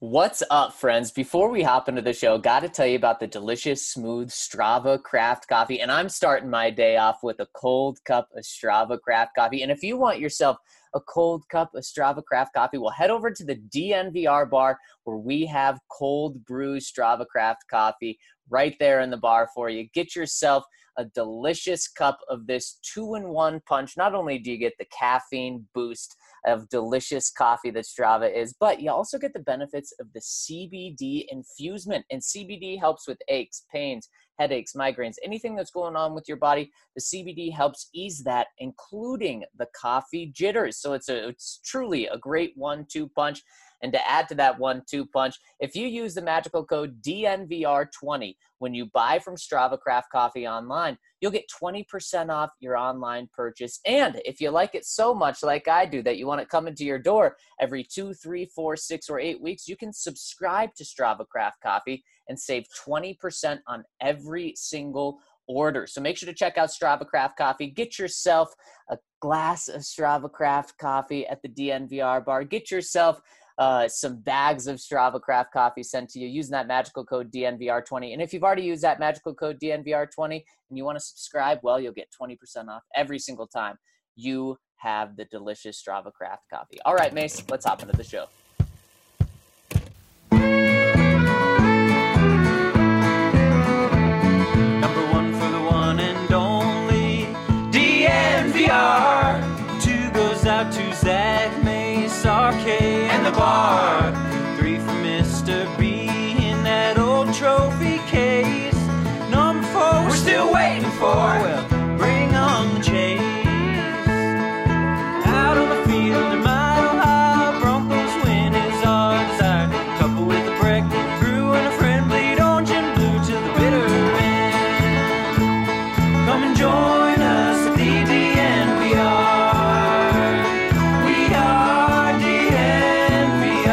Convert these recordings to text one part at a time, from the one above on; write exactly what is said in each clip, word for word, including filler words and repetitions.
What's up, friends? Before we hop into the show, got to tell you about the delicious, smooth Strava craft coffee. And I'm starting my day off with a cold cup of Strava craft coffee. And if you want yourself a cold cup of Strava craft coffee, well, head over to the D N V R bar where we have cold brew Strava craft coffee right there in the bar for you. Get yourself a delicious cup of this two-in-one punch. Not only do you get the caffeine boost of delicious coffee that Strava is, but you also get the benefits of the C B D infusement. And C B D helps with aches, pains, headaches, migraines, anything that's going on with your body. The C B D helps ease that, including the coffee jitters. So it's a it's truly a great one two punch. And to add to that one two punch, if you use the magical code D N V R twenty when you buy from Strava Craft Coffee online, you'll get twenty percent off your online purchase. And if you like it so much like I do that you want it coming to your door every two, three, four, six, or eight weeks, you can subscribe to Strava Craft Coffee and save twenty percent on every single order. So make sure to check out Strava Craft Coffee. Get yourself a glass of Strava Craft Coffee at the D N V R bar. Get yourself Uh, some bags of Strava Craft Coffee sent to you using that magical code D N V R twenty. And if you've already used that magical code D N V R twenty and you want to subscribe, well, you'll get twenty percent off every single time you have the delicious Strava Craft Coffee. All right, Mace, let's hop into the show. Number one for the one and only D N V R. Two goes out to Zach, Mace, R K, and the bar. Three for Mister B in that old trophy case. Number four, we're still waiting for. Well, bring on the chase. Out on the field, a mile high, Broncos win is our desire. Couple with a break, brew and a friend, bleed orange and blue to the bitter end. Come and join us at the D N V R. We are D N V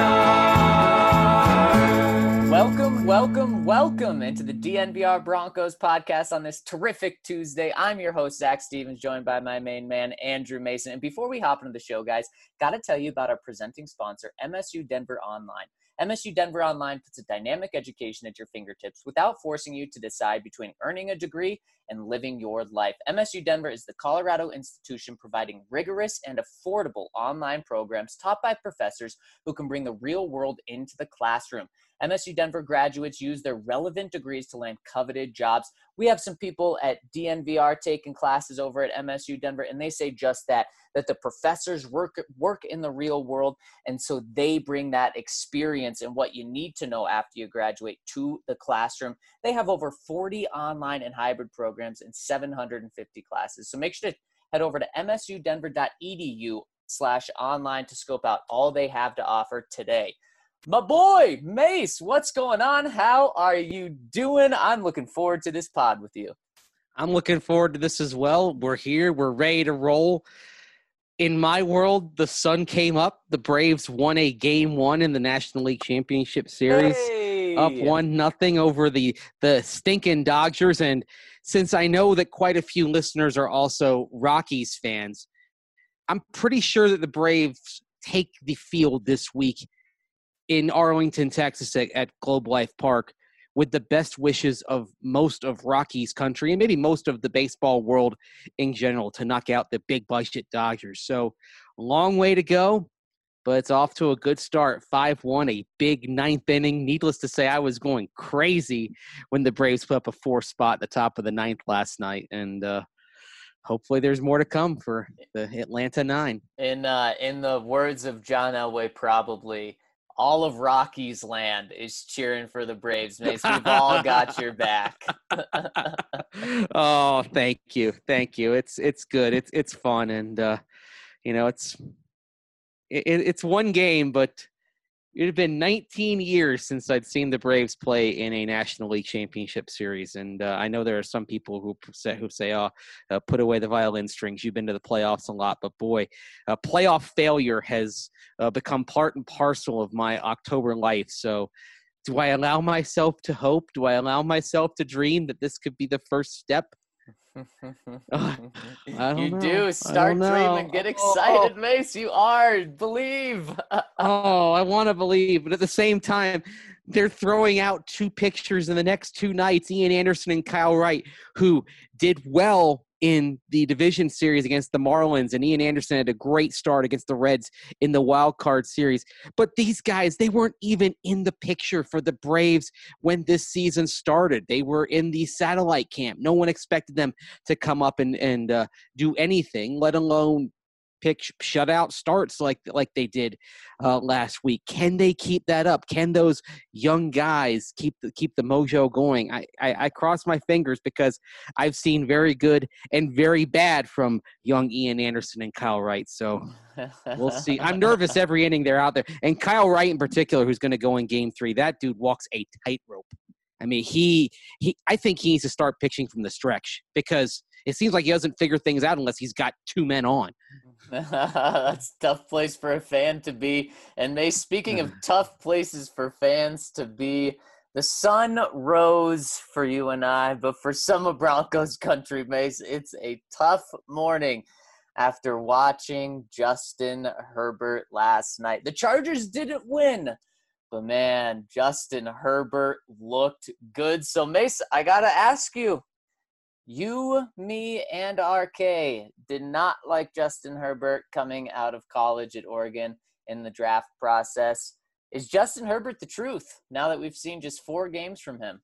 R. Welcome, welcome, welcome into the D N V R Broncos podcast on this terrific Tuesday. I'm your host, Zach Stevens, joined by my main man, Andrew Mason. And before we hop into the show, guys, got to tell you about our presenting sponsor, M S U Denver Online. M S U Denver Online puts a dynamic education at your fingertips without forcing you to decide between earning a degree and living your life. M S U Denver is the Colorado institution providing rigorous and affordable online programs taught by professors who can bring the real world into the classroom. M S U Denver graduates use their relevant degrees to land coveted jobs. We have some people at D N V R taking classes over at M S U Denver, and they say just that, that the professors work, work in the real world, and so they bring that experience and what you need to know after you graduate to the classroom. They have over forty online and hybrid programs and seven hundred fifty classes. So make sure to head over to msudenver.edu slash online to scope out all they have to offer today. My boy, Mace, what's going on? How are you doing? I'm looking forward to this pod with you. I'm looking forward to this as well. We're here. We're ready to roll. In my world, the sun came up. The Braves won a game one in the National League Championship Series. Hey. Up one nothing over the, the stinking Dodgers. And since I know that quite a few listeners are also Rockies fans, I'm pretty sure that the Braves take the field this week in Arlington, Texas at, at Globe Life Park with the best wishes of most of Rockies country and maybe most of the baseball world in general to knock out the big budget Dodgers. So long way to go, but it's off to a good start. five one, a big ninth inning. Needless to say, I was going crazy when the Braves put up a four spot at the top of the ninth last night. And uh, hopefully there's more to come for the Atlanta nine. In, uh, in the words of John Elway, probably, all of Rockies land is cheering for the Braves, Mace. We've all got your back. Oh, thank you. Thank you. It's, it's good. It's, it's fun. And, uh, you know, it's, it, it's one game, but it had been nineteen years since I'd seen the Braves play in a National League Championship Series. And uh, I know there are some people who say, who say, oh, uh, put away the violin strings. You've been to the playoffs a lot. But, boy, uh, playoff failure has uh, become part and parcel of my October life. So do I allow myself to hope? Do I allow myself to dream that this could be the first step Uh, I don't You know. do. I Start don't know. dreaming. Get Oh, excited, Mace. You are. Believe. oh, I want to believe, but at the same time, they're throwing out two pictures in the next two nights, Ian Anderson and Kyle Wright, who did well in the division series against the Marlins, and Ian Anderson had a great start against the Reds in the wild card series. But these guys, they weren't even in the picture for the Braves when this season started. They were in the satellite camp. No one expected them to come up and, and uh, do anything, let alone pick shutout starts like like they did uh, last week. Can they keep that up? Can those young guys keep the keep the mojo going? I, I, I cross my fingers because I've seen very good and very bad from young Ian Anderson and Kyle Wright. So we'll see. I'm nervous every inning they're out there. And Kyle Wright in particular, who's going to go in game three, that dude walks a tightrope. I mean, he he. I think he needs to start pitching from the stretch because it seems like he doesn't figure things out unless he's got two men on. That's a tough place for a fan to be. And May, speaking of tough places for fans to be, the sun rose for you and I, but for some of Broncos country, Mace, it's a tough morning after watching Justin Herbert last night. The Chargers didn't win, but man, Justin Herbert looked good. So Mace, I got to ask you, you, me, and R K did not like Justin Herbert coming out of college at Oregon in the draft process. Is Justin Herbert the truth now that we've seen just four games from him?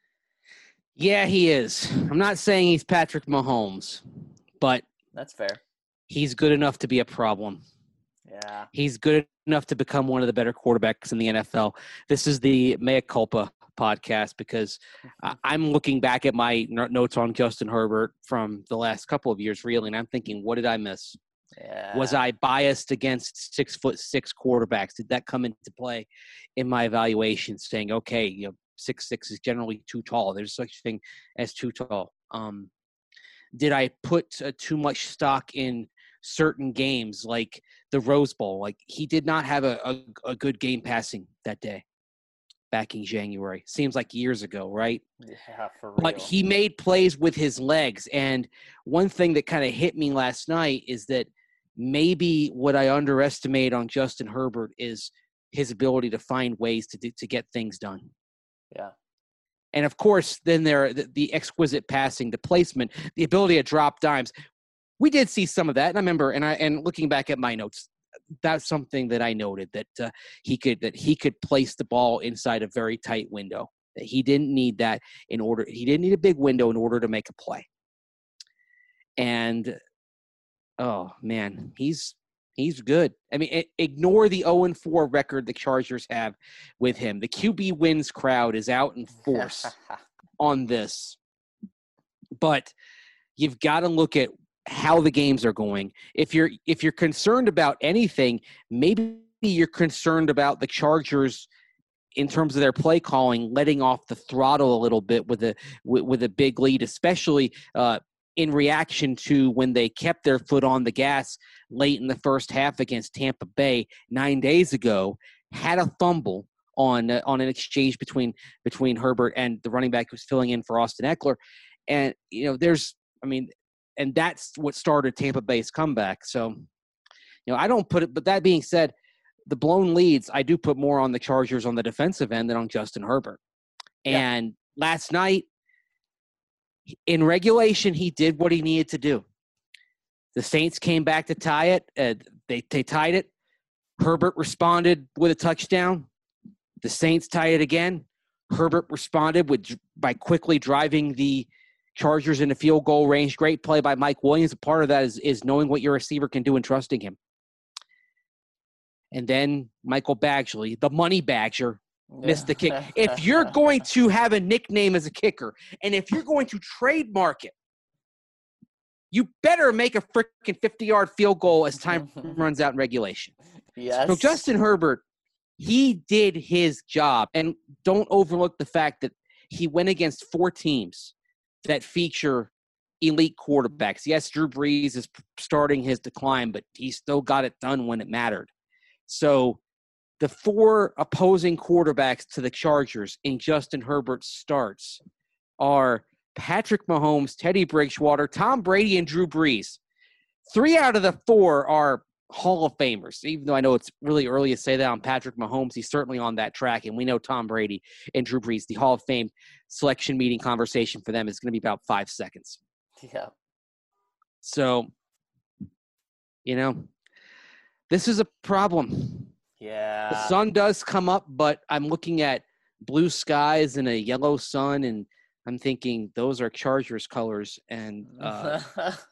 Yeah, he is. I'm not saying he's Patrick Mahomes, but that's fair. He's good enough to be a problem. Yeah. He's good enough to become one of the better quarterbacks in the N F L. This is the Mea Culpa podcast because I'm looking back at my notes on Justin Herbert from the last couple of years, really, and I'm thinking, what did I miss? Yeah. Was I biased against six foot six quarterbacks? Did that come into play in my evaluation, saying, okay, you know, six six is generally too tall. There's such a thing as too tall. Um, did I put uh, too much stock in certain games like the Rose Bowl? Like he did not have a, a, a good game passing that day. Back in January. Seems like years ago, right? Yeah, for real. But he made plays with his legs. And one thing that kind of hit me last night is that maybe what I underestimate on Justin Herbert is his ability to find ways to do, to get things done. Yeah. And, of course, then there are the, the exquisite passing, the placement, the ability to drop dimes. We did see some of that. And I remember, and I and looking back at my notes, that's something that I noted that uh, he could that he could place the ball inside a very tight window. That he didn't need that in order. He didn't need a big window in order to make a play. And oh man, he's he's good. I mean, it, ignore the oh and four record the Chargers have with him. The Q B wins crowd is out in force on this, but you've got to look at how the games are going. If you're if you're concerned about anything, maybe you're concerned about the Chargers in terms of their play calling, letting off the throttle a little bit with a with, with a big lead, especially uh, in reaction to when they kept their foot on the gas late in the first half against Tampa Bay nine days ago, had a fumble on uh, on an exchange between between Herbert and the running back who's filling in for Austin Eckler, and you know there's I mean. And that's what started Tampa Bay's comeback. So, you know, I don't put it, but that being said, the blown leads, I do put more on the Chargers on the defensive end than on Justin Herbert. Yeah. And last night, in regulation, he did what he needed to do. The Saints came back to tie it. Uh, they, they tied it. Herbert responded with a touchdown. The Saints tied it again. Herbert responded with by quickly driving the Chargers in the field goal range. Great play by Mike Williams. A part of that is, is knowing what your receiver can do and trusting him. And then Michael Badgley, the money badger, yeah. missed the kick. If you're going to have a nickname as a kicker, and if you're going to trademark it, you better make a freaking fifty-yard field goal as time runs out in regulation. Yes. So Justin Herbert, he did his job. And don't overlook the fact that he went against four teams that feature elite quarterbacks. Yes, Drew Brees is starting his decline, but he still got it done when it mattered. So the four opposing quarterbacks to the Chargers in Justin Herbert's starts are Patrick Mahomes, Teddy Bridgewater, Tom Brady, and Drew Brees. Three out of the four are Hall of Famers, even though I know it's really early to say that on Patrick Mahomes. He's certainly on that track, and we know Tom Brady and Drew Brees. The Hall of Fame selection meeting conversation for them is going to be about five seconds. Yeah. So, you know, this is a problem. Yeah. The sun does come up, but I'm looking at blue skies and a yellow sun, and I'm thinking those are Chargers colors. And uh,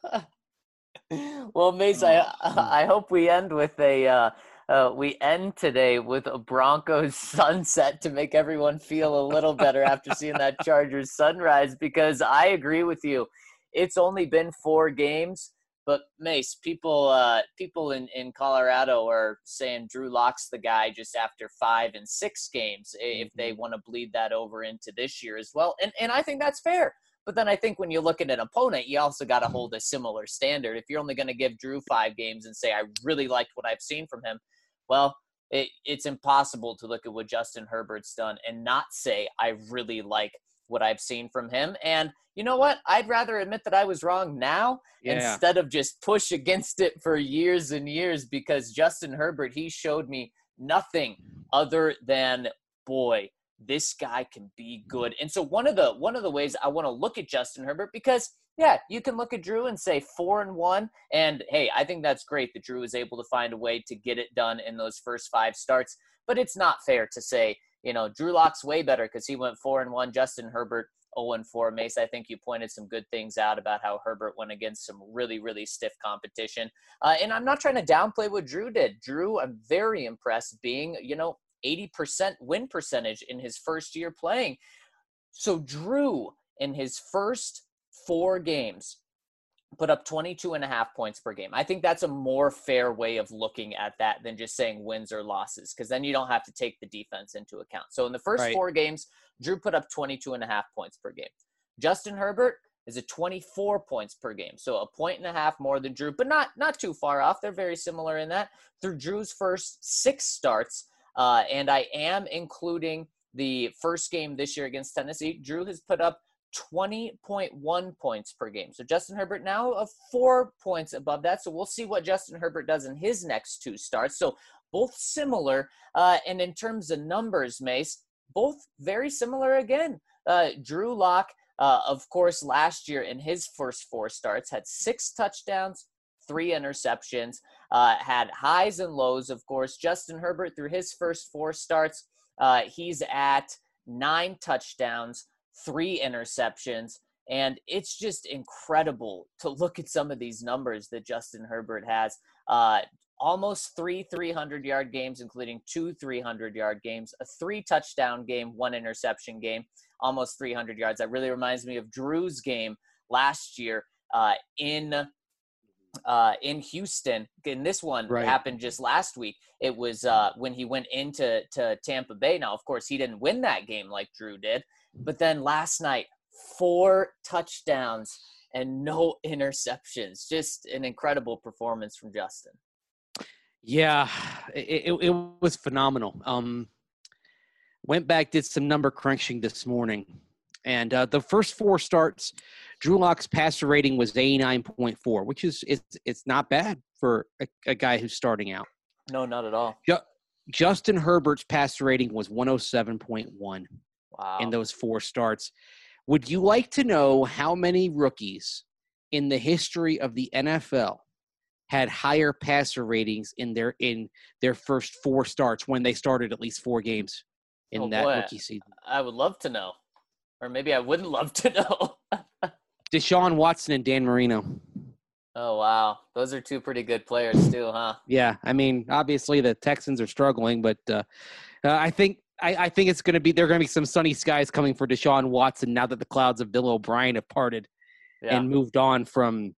well, Mace, I I hope we end with a uh, uh, we end today with a Broncos sunset to make everyone feel a little better after seeing that Chargers sunrise. Because I agree with you, it's only been four games, but Mace, people uh, people in, in Colorado are saying Drew Lock's the guy just after five and six games if they want to bleed that over into this year as well, and and I think that's fair. But then I think when you look at an opponent, you also got to hold a similar standard. If you're only going to give Drew five games and say, I really liked what I've seen from him, well, it, it's impossible to look at what Justin Herbert's done and not say, I really like what I've seen from him. And you know what? I'd rather admit that I was wrong now Yeah. instead of just push against it for years and years, because Justin Herbert, he showed me nothing other than, boy, this guy can be good. And so one of the one of the ways I want to look at Justin Herbert, because yeah, you can look at Drew and say four and one, and hey, I think that's great that Drew was able to find a way to get it done in those first five starts. But it's not fair to say, you know, Drew Lock's way better because he went four and one. Justin Herbert zero and four. Mace, I think you pointed some good things out about how Herbert went against some really, really stiff competition. Uh, and I'm not trying to downplay what Drew did. Drew, I'm very impressed being, you know, eighty percent win percentage in his first year playing. So Drew, in his first four games, put up twenty-two and a half points per game. I think that's a more fair way of looking at that than just saying wins or losses, because then you don't have to take the defense into account. So in the first Right. four games, Drew put up twenty-two and a half points per game. Justin Herbert is at twenty-four points per game. So a point and a half more than Drew, but not, not too far off. They're very similar in that. Through Drew's first six starts, uh, and I am including the first game this year against Tennessee, Drew has put up twenty point one points per game. So Justin Herbert now of four points above that. So we'll see what Justin Herbert does in his next two starts. So both similar. Uh, and in terms of numbers, Mace, both very similar again. Uh, Drew Lock, uh, of course, last year in his first four starts had six touchdowns, three interceptions, uh, had highs and lows, of course. Justin Herbert, through his first four starts, uh, he's at nine touchdowns, three interceptions, and it's just incredible to look at some of these numbers that Justin Herbert has. Uh, almost three three hundred-yard games, including two three hundred-yard games, a three-touchdown game, one interception game, almost three hundred yards. That really reminds me of Drew's game last year uh, in uh, in Houston. And this one Right. happened just last week. It was uh, when he went into to Tampa Bay. Now, of course, he didn't win that game like Drew did. But then last night, four touchdowns and no interceptions. Just an incredible performance from Justin. Yeah, it, it, it was phenomenal. Um, went back, did some number crunching this morning. And uh, the first four starts, Drew Lock's passer rating was eighty-nine point four, which is it's, it's not bad for a, a guy who's starting out. No, not at all. Ju- Justin Herbert's passer rating was one oh seven point one. Wow. In those four starts. Would you like to know how many rookies in the history of the N F L had higher passer ratings in their in their first four starts when they started at least four games in Oh, that boy. rookie season? I would love to know. Or maybe I wouldn't love to know. Deshaun Watson and Dan Marino. Oh, wow. Those are two pretty good players too, huh? Yeah, I mean, obviously the Texans are struggling, but uh, uh, I think I, I think it's going to be there are going to be some sunny skies coming for Deshaun Watson now that the clouds of Bill O'Brien have parted Yeah. and moved on from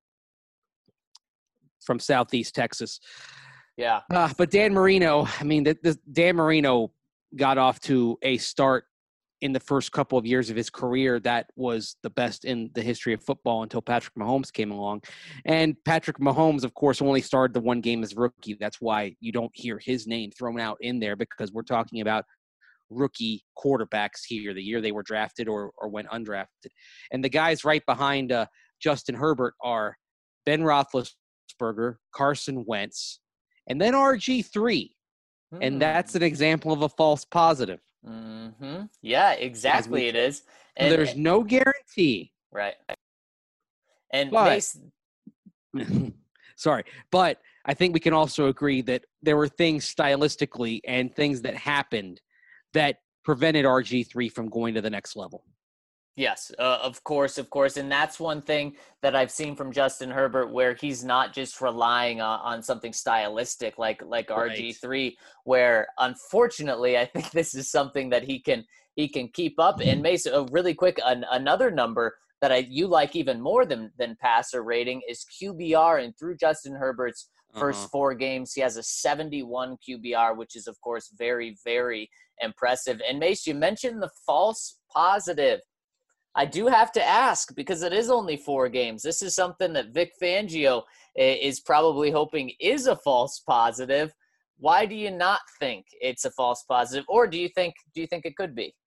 from Southeast Texas. Yeah. Uh, but Dan Marino, I mean, the, the, Dan Marino got off to a start in the first couple of years of his career that was the best in the history of football until Patrick Mahomes came along. And Patrick Mahomes, of course, only started the one game as a rookie. That's why you don't hear his name thrown out in there, because we're talking about rookie quarterbacks here, the year they were drafted or or went undrafted. And the guys right behind uh, Justin Herbert are Ben Roethlisberger, Carson Wentz, and then R G three. Hmm. And that's an example of a false positive. Mm-hmm. Yeah, exactly it is. And there's no guarantee. Right. And but, Mace, sorry, but I think we can also agree that there were things stylistically and things that happened that prevented R G three from going to the next level. Yes, uh, of course, of course. And that's one thing that I've seen from Justin Herbert, where he's not just relying on, on something stylistic like like right. R G three, where unfortunately I think this is something that he can he can keep up. And Mason, uh, really quick, an, another number that I you like even more than than passer rating is Q B R. And through Justin Herbert's first uh-huh. four games, he has a seventy-one Q B R, which is, of course, very, very impressive. And Mace, you mentioned the false positive. I do have to ask, because it is only four games. This is something that Vic Fangio is probably hoping is a false positive. Why do you not think it's a false positive, or do you think do you think it could be?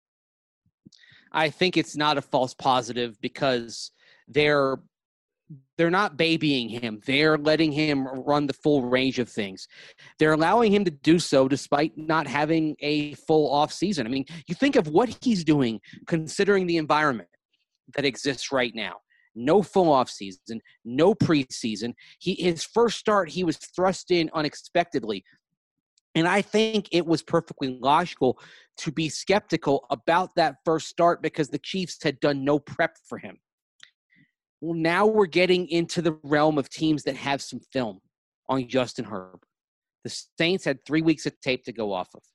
I think it's not a false positive because they're they're not babying him. They're letting him run the full range of things. They're allowing him to do so despite not having a full off season. I mean, you think of what he's doing considering the environment that exists right now. No full off season, no preseason. He, his first start, he was thrust in unexpectedly. And I think it was perfectly logical to be skeptical about that first start because the Chiefs had done no prep for him. Well, now we're getting into the realm of teams that have some film on Justin Herbert. The Saints had three weeks of tape to go off of.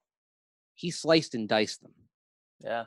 He sliced and diced them. Yeah.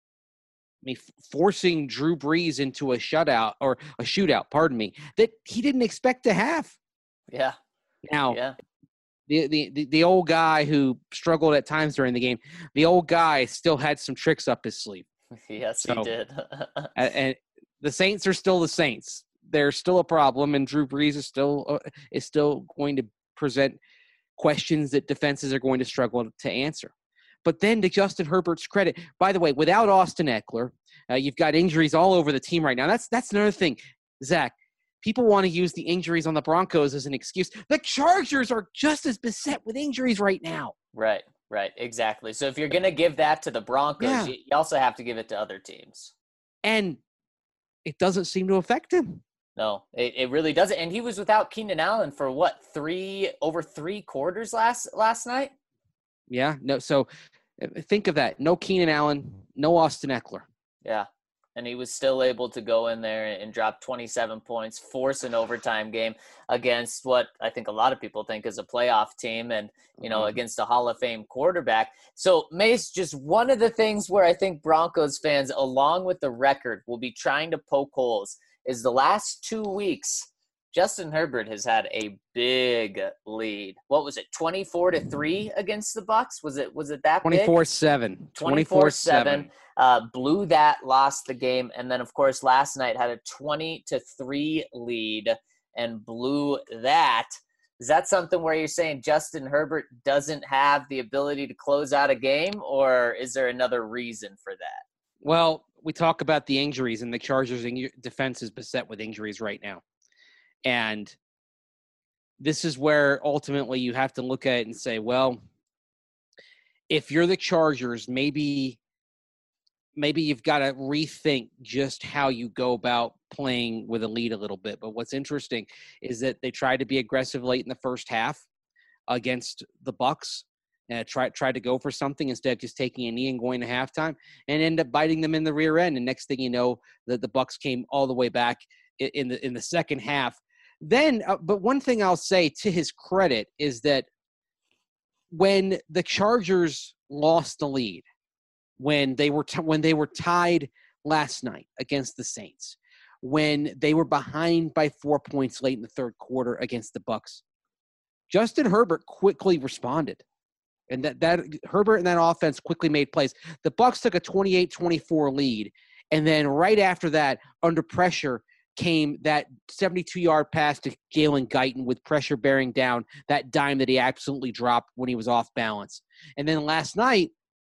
I mean, forcing Drew Brees into a shutout or a shootout, pardon me, that he didn't expect to have. Yeah. Now, yeah. The, the, the, the old guy who struggled at times during the game, the old guy still had some tricks up his sleeve. Yes, so, he did. and, and the Saints are still the Saints. They're still a problem, and Drew Brees is still uh, is still going to present questions that defenses are going to struggle to answer. But then, to Justin Herbert's credit, by the way, without Austin Eckler, uh, you've got injuries all over the team right now. That's that's another thing, Zach. People want to use the injuries on the Broncos as an excuse. The Chargers are just as beset with injuries right now. Right, right, exactly. So if you're going to give that to the Broncos, yeah. you also have to give it to other teams. And it doesn't seem to affect him. No, it, it really doesn't. And he was without Keenan Allen for what, three over three quarters last last night? Yeah, no. So think of that. No Keenan Allen, no Austin Eckler. Yeah. And he was still able to go in there and drop twenty-seven points, force an overtime game against what I think a lot of people think is a playoff team and, you know, mm-hmm. against a Hall of Fame quarterback. So, Mace, just one of the things where I think Broncos fans, along with the record, will be trying to poke holes is the last two weeks, Justin Herbert has had a big lead. What was it, twenty-four to three against the Bucs? Was it was it that big? twenty-four seven. twenty-four seven. Uh, blew that, lost the game, and then, of course, last night had a twenty to three lead and blew that. Is that something where you're saying Justin Herbert doesn't have the ability to close out a game, or is there another reason for that? Well, we talk about the injuries, and the Chargers' defense is beset with injuries right now. And this is where ultimately you have to look at it and say, well, if you're the Chargers, maybe maybe you've got to rethink just how you go about playing with a lead a little bit. But what's interesting is that they tried to be aggressive late in the first half against the Bucs and tried tried to go for something instead of just taking a knee and going to halftime and end up biting them in the rear end. And next thing you know, the, the Bucs came all the way back in the in the second half. Then, uh, but one thing I'll say to his credit is that when the Chargers lost the lead, when they were t- when they were tied last night against the Saints, when they were behind by four points late in the third quarter against the Bucs, Justin Herbert quickly responded. And that, that Herbert and that offense quickly made plays. The Bucs took a twenty-eight twenty-four lead, and then right after that, under pressure, came that seventy-two-yard pass to Jalen Guyton with pressure bearing down that dime that he absolutely dropped when he was off balance. And then last night,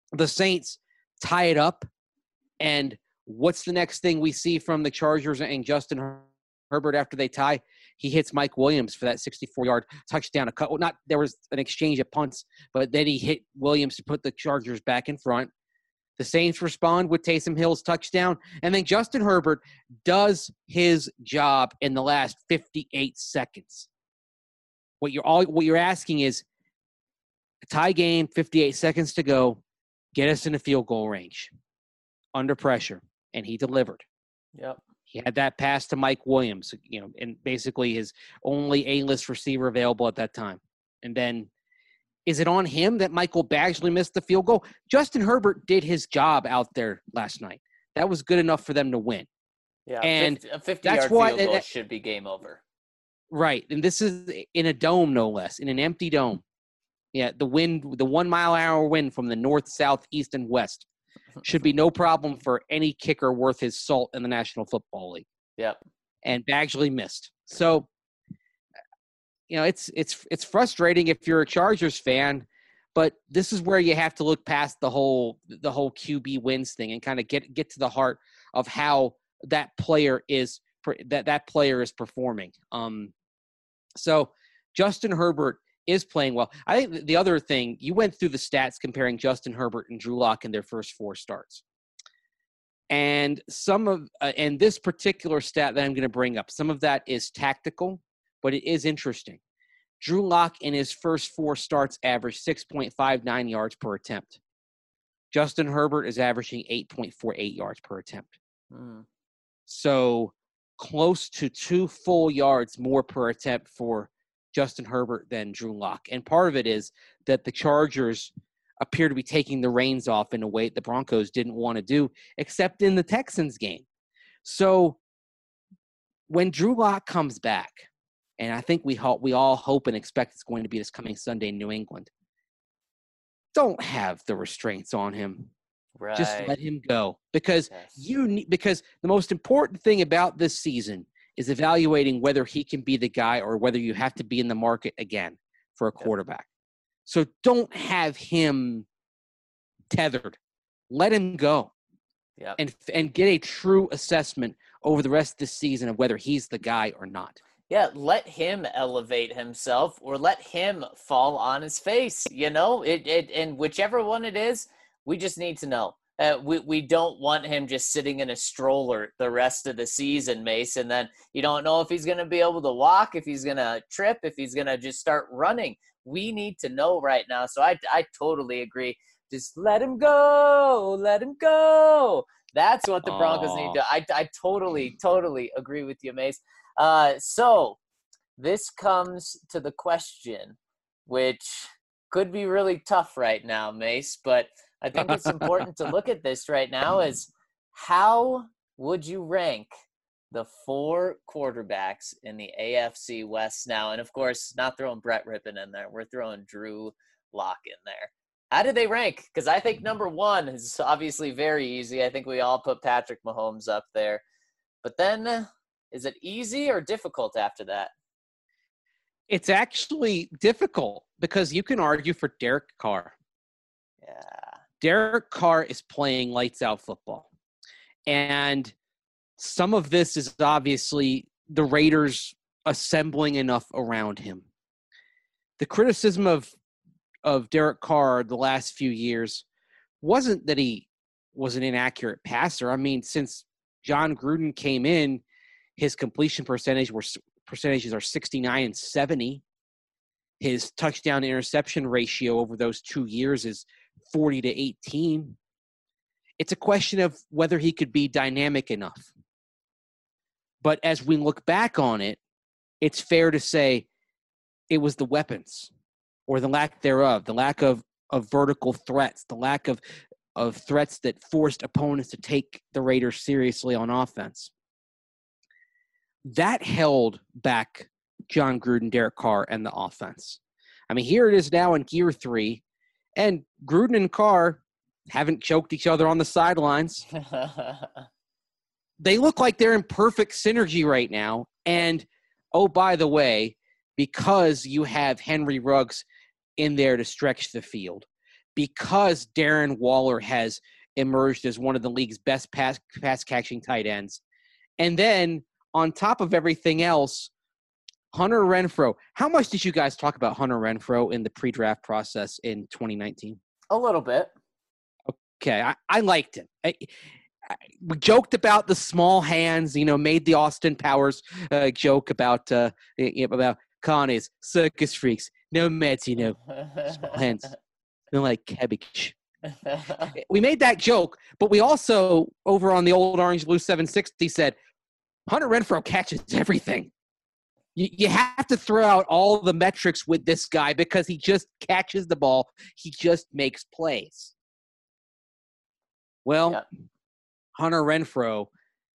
the Saints tie it up, and what's the next thing we see from the Chargers and Justin Her- Herbert after they tie? He hits Mike Williams for that sixty-four-yard touchdown. A cut, well, not there was an exchange of punts, but then he hit Williams to put the Chargers back in front. The Saints respond with Taysom Hill's touchdown, and then Justin Herbert does his job in the last fifty-eight seconds. What you're all what you're asking is a tie game, fifty-eight seconds to go, get us in a field goal range, under pressure, and he delivered. Yep. He had that pass to Mike Williams, you know, and basically his only A-list receiver available at that time. And then, is it on him that Michael Badgley missed the field goal? Justin Herbert did his job out there last night. That was good enough for them to win. Yeah, and a fifty-yard that's why, field goal that, should be game over. Right, and this is in a dome, no less, in an empty dome. Yeah, the wind, the one-mile-an-hour wind from the north, south, east, and west should be no problem for any kicker worth his salt in the National Football League. Yep. And Badgley missed. So, you know, it's it's it's frustrating if you're a Chargers fan, but this is where you have to look past the whole the whole Q B wins thing and kind of get get to the heart of how that player is that that player is performing. Um, so Justin Herbert is playing well. I think the other thing, you went through the stats comparing Justin Herbert and Drew Lock in their first four starts. And some of uh, and this particular stat that I'm going to bring up, some of that is tactical, but it is interesting. Drew Lock in his first four starts averaged six point five nine yards per attempt. Justin Herbert is averaging eight point four eight yards per attempt. Mm. So close to two full yards more per attempt for Justin Herbert than Drew Lock. And part of it is that the Chargers appear to be taking the reins off in a way the Broncos didn't want to do, except in the Texans game. So when Drew Lock comes back, and I think we hope, we all hope and expect it's going to be this coming Sunday in New England, don't have the restraints on him. Right. Just let him go. Because Yes. you need, because the most important thing about this season is evaluating whether he can be the guy or whether you have to be in the market again for a quarterback. So don't have him tethered. Let him go. Yep. And and get a true assessment over the rest of the season of whether he's the guy or not. Yeah, let him elevate himself or let him fall on his face, you know? It, it and whichever one it is, we just need to know. Uh, we, we don't want him just sitting in a stroller the rest of the season, Mace, and then you don't know if he's going to be able to walk, if he's going to trip, if he's going to just start running. We need to know right now. So I, I totally agree. Just let him go. Let him go. That's what the Broncos Aww. need to do. I, I totally, totally agree with you, Mace. Uh, so this comes to the question, which could be really tough right now, Mace, but I think it's important to look at this right now is how would you rank the four quarterbacks in the A F C West now? And, of course, not throwing Brett Rippon in there. We're throwing Drew Lock in there. How do they rank? Because I think number one is obviously very easy. I think we all put Patrick Mahomes up there. But then is it easy or difficult after that? It's actually difficult because you can argue for Derek Carr. Yeah. Derek Carr is playing lights out football. And some of this is obviously the Raiders assembling enough around him. The criticism of of Derek Carr the last few years wasn't that he was an inaccurate passer. I mean, since John Gruden came in, his completion percentage were percentages are sixty-nine and seventy. His touchdown interception ratio over those two years is forty to eighteen. It's a question of whether he could be dynamic enough. But as we look back on it, it's fair to say it was the weapons or the lack thereof, the lack of, of vertical threats, the lack of, of threats that forced opponents to take the Raiders seriously on offense. That held back John Gruden, Derek Carr, and the offense. I mean, here it is now in year three, and Gruden and Carr haven't choked each other on the sidelines. They look like they're in perfect synergy right now. And, oh, by the way, because you have Henry Ruggs in there to stretch the field, because Darren Waller has emerged as one of the league's best pass pass catching tight ends. And then on top of everything else, Hunter Renfrow. How much did you guys talk about Hunter Renfrow in the pre-draft process in twenty nineteen? A little bit. Okay, I, I liked him. I, I, we joked about the small hands, you know, made the Austin Powers uh, joke about uh, about Connie's circus freaks. No meds, you know, small hands. Feel like cabbage. We made that joke, but we also, over on the old Orange Blue seven sixty, said Hunter Renfrow catches everything. You, you have to throw out all the metrics with this guy because he just catches the ball. He just makes plays. Well, yeah. Hunter Renfrow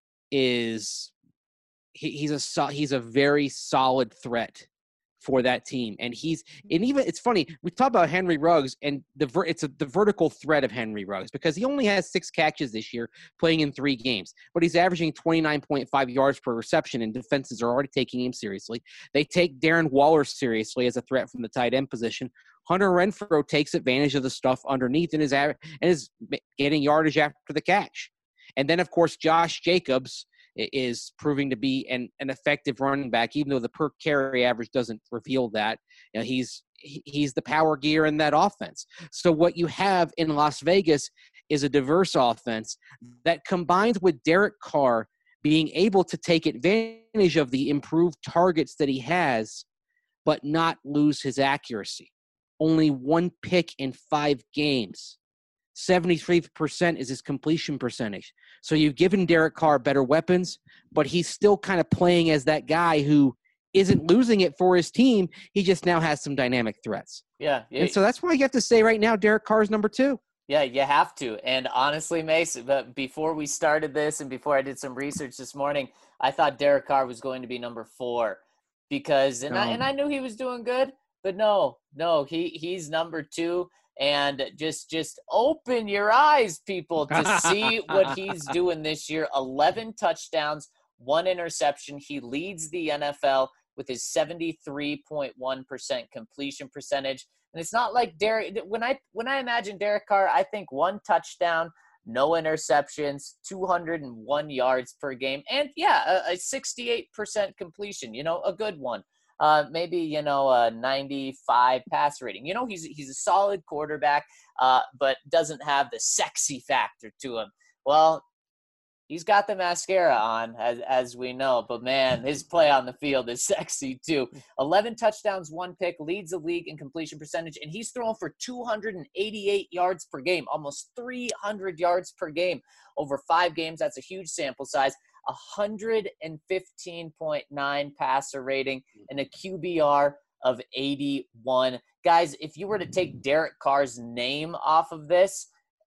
is he, he's a he's a very solid threat for that team, and he's and even it's funny we talk about Henry Ruggs and the ver, it's a, the vertical threat of Henry Ruggs because he only has six catches this year playing in three games, but he's averaging twenty-nine point five yards per reception, and defenses are already taking him seriously. They take Darren Waller seriously as a threat from the tight end position. Hunter Renfrow takes advantage of the stuff underneath and is and is getting yardage after the catch, and then of course Josh Jacobs is proving to be an, an effective running back, even though the per carry average doesn't reveal that. You know, he's he's the power gear in that offense. So what you have in Las Vegas is a diverse offense that combines with Derek Carr being able to take advantage of the improved targets that he has, but not lose his accuracy. Only one pick in five games. seventy-three percent is his completion percentage. So you've given Derek Carr better weapons, but he's still kind of playing as that guy who isn't losing it for his team. He just now has some dynamic threats. Yeah. yeah. And so that's why you have to say right now Derek Carr is number two. Yeah, you have to. And honestly, Mace, but before we started this and before I did some research this morning, I thought Derek Carr was going to be number four because and, no. I, and I knew he was doing good, but no, no, he he's number two. And just just open your eyes, people, to see what he's doing this year. eleven touchdowns, one interception. He leads the N F L with his seventy-three point one percent completion percentage. And it's not like Derek – when I when I imagine Derek Carr, I think one touchdown, no interceptions, two hundred one yards per game. And, yeah, a, a sixty-eight percent completion, you know, a good one. Uh, maybe, you know, a ninety-five pass rating. You know, he's he's a solid quarterback, uh, but doesn't have the sexy factor to him. Well, he's got the mascara on, as as we know. But, man, his play on the field is sexy, too. eleven touchdowns, one pick, leads the league in completion percentage, and he's throwing for two hundred eighty-eight yards per game, almost three hundred yards per game over five games. That's a huge sample size. one hundred fifteen point nine passer rating and a Q B R of eighty-one. Guys, if you were to take Derek Carr's name off of this,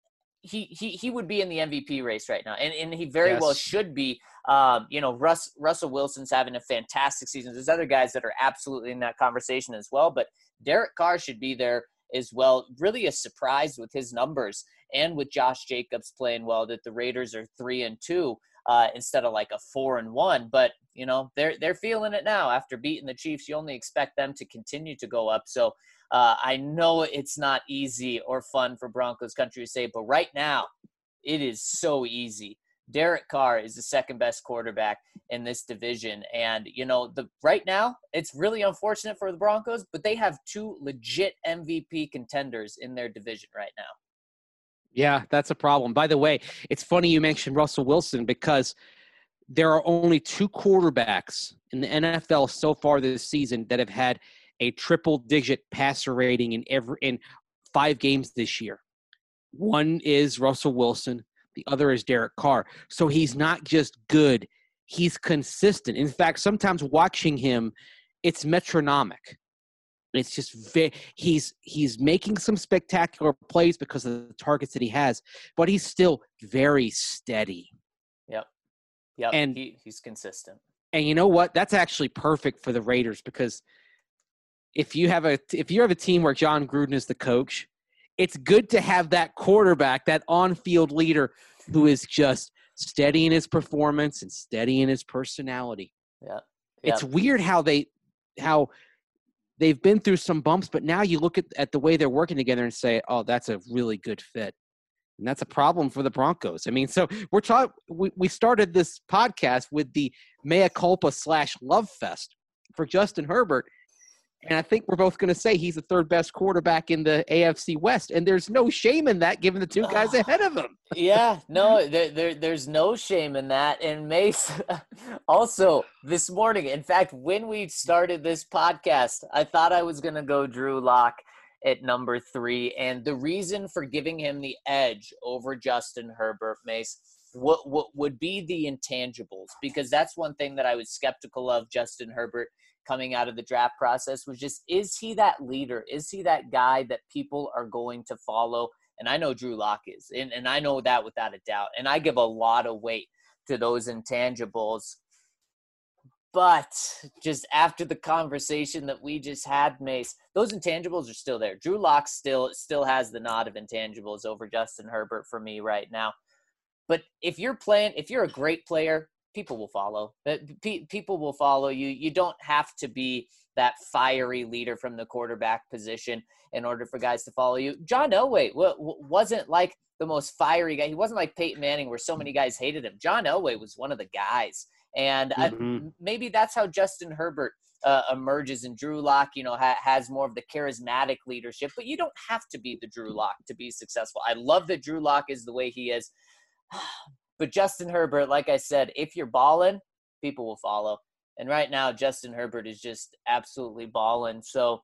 he he he would be in the M V P race right now. And and he very yes. well should be. Um, you know, Russ Russell Wilson's having a fantastic season. There's other guys that are absolutely in that conversation as well, but Derek Carr should be there as well. Really a surprise with his numbers and with Josh Jacobs playing well that the Raiders are three and two. Uh, instead of like a four and one, but you know they're they're feeling it now after beating the Chiefs. You only expect them to continue to go up. So uh, I know it's not easy or fun for Broncos country to say, but right now it is so easy. Derek Carr is the second best quarterback in this division, and you know the right now it's really unfortunate for the Broncos, but they have two legit M V P contenders in their division right now. Yeah, that's a problem. By the way, it's funny you mentioned Russell Wilson because there are only two quarterbacks in the N F L so far this season that have had a triple-digit passer rating in every in five games this year. One is Russell Wilson. The other is Derek Carr. So he's not just good. He's consistent. In fact, sometimes watching him, it's metronomic. It's just very, he's he's making some spectacular plays because of the targets that he has, but he's still very steady. Yep. Yep. And he, he's consistent. And you know what? That's actually perfect for the Raiders because if you have a if you have a team where John Gruden is the coach, it's good to have that quarterback, that on-field leader who is just steady in his performance and steady in his personality. Yeah. Yep. It's weird how they how they've been through some bumps, but now you look at, at the way they're working together and say, oh, that's a really good fit. And that's a problem for the Broncos. I mean, so we're talking, we, we started this podcast with the mea culpa slash love fest for Justin Herbert. And I think we're both going to say he's the third best quarterback in the A F C West. And there's no shame in that given the two guys ahead of him. Yeah, no, there, there, there's no shame in that. And Mace, also this morning, in fact, when we started this podcast, I thought I was going to go Drew Lock at number three. And the reason for giving him the edge over Justin Herbert, Mace, what, what would be the intangibles? Because that's one thing that I was skeptical of Justin Herbert coming out of the draft process was just, is he that leader? Is he that guy that people are going to follow? And I know Drew Lock is, and, and I know that without a doubt. And I give a lot of weight to those intangibles. But just after the conversation that we just had, Mace, those intangibles are still there. Drew Lock still still has the nod of intangibles over Justin Herbert for me right now. But if you're playing, if you're a great player, people will follow. People will follow you. You don't have to be that fiery leader from the quarterback position in order for guys to follow you. John Elway wasn't like the most fiery guy. He wasn't like Peyton Manning where so many guys hated him. John Elway was one of the guys. And mm-hmm. I, maybe that's how Justin Herbert uh, emerges, and Drew Lock, you know, ha- has more of the charismatic leadership. But you don't have to be the Drew Lock to be successful. I love that Drew Lock is the way he is. But Justin Herbert, like I said, if you're balling, people will follow. And right now, Justin Herbert is just absolutely balling. So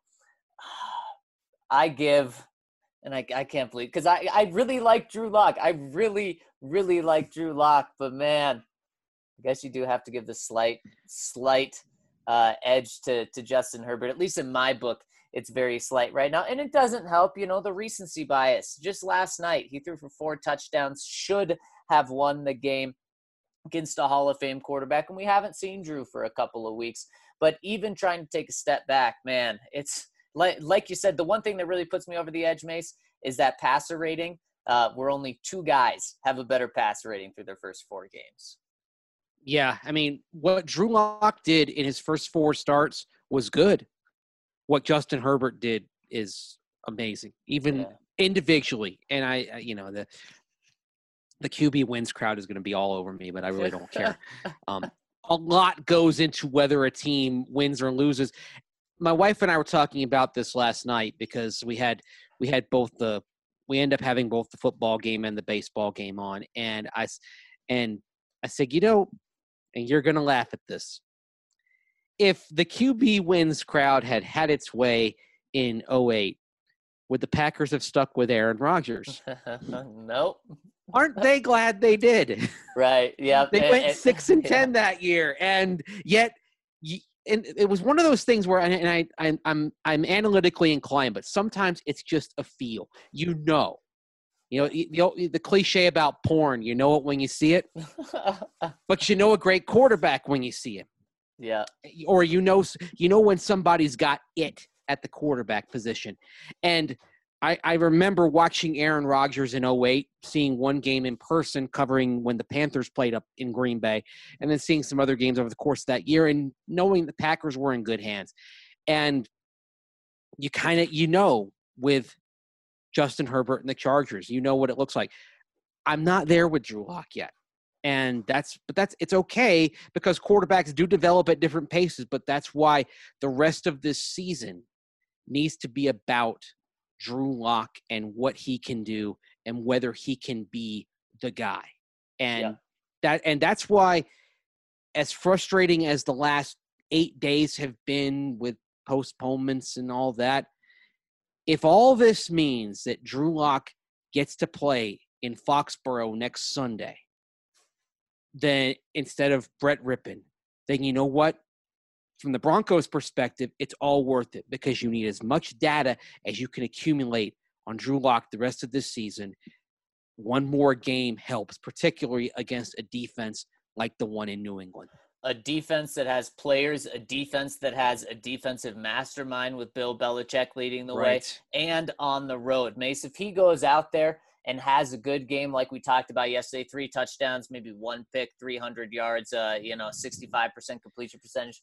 I give, and I, I can't believe, because I, I really like Drew Lock. I really, really like Drew Lock. But, man, I guess you do have to give the slight, slight uh, edge to, to Justin Herbert. At least in my book, it's very slight right now. And it doesn't help, you know, the recency bias. Just last night, he threw for four touchdowns, should have won the game against a Hall of Fame quarterback, and we haven't seen Drew for a couple of weeks. But even trying to take a step back, man, it's like like you said, the one thing that really puts me over the edge, Mace, is that passer rating, uh, where only two guys have a better passer rating through their first four games. Yeah, I mean, what Drew Lock did in his first four starts was good. What Justin Herbert did is amazing, even yeah. individually. And I, I, you know, the the Q B wins crowd is going to be all over me, but I really don't care. Um, a lot goes into whether a team wins or loses. My wife and I were talking about this last night because we had we had both the we end up having both the football game and the baseball game on, and I and I said, you know, and you're going to laugh at this. If the Q B wins crowd had had its way in oh eight, would the Packers have stuck with Aaron Rodgers? Nope. Aren't they glad they did? Right. Yeah. They and, went and, six and ten yeah. that year, and yet, and it was one of those things where, and I, I, I'm, I'm analytically inclined, but sometimes it's just a feel. You know, you know, the, the cliche about porn. You know it when you see it, but you know a great quarterback when you see him. Yeah. Or you know, you know when somebody's got it at the quarterback position, and. I, I remember watching Aaron Rodgers in oh eight, seeing one game in person, covering when the Panthers played up in Green Bay, and then seeing some other games over the course of that year and knowing the Packers were in good hands. And you kind of, you know, with Justin Herbert and the Chargers, you know what it looks like. I'm not there with Drew Lock yet. And that's, but that's, it's okay because quarterbacks do develop at different paces, but that's why the rest of this season needs to be about Drew Lock and what he can do and whether he can be the guy. And yeah. that and that's why, as frustrating as the last eight days have been with postponements and all that, if all this means that Drew Lock gets to play in Foxborough next Sunday, then instead of Brett Rippon, then you know what? From the Broncos' perspective, it's all worth it because you need as much data as you can accumulate on Drew Lock the rest of this season. One more game helps, particularly against a defense like the one in New England. A defense that has players, a defense that has a defensive mastermind with Bill Belichick leading the right. way, and on the road. Mace, if he goes out there and has a good game like we talked about yesterday, three touchdowns, maybe one pick, three hundred yards, uh, you know, sixty-five percent completion percentage,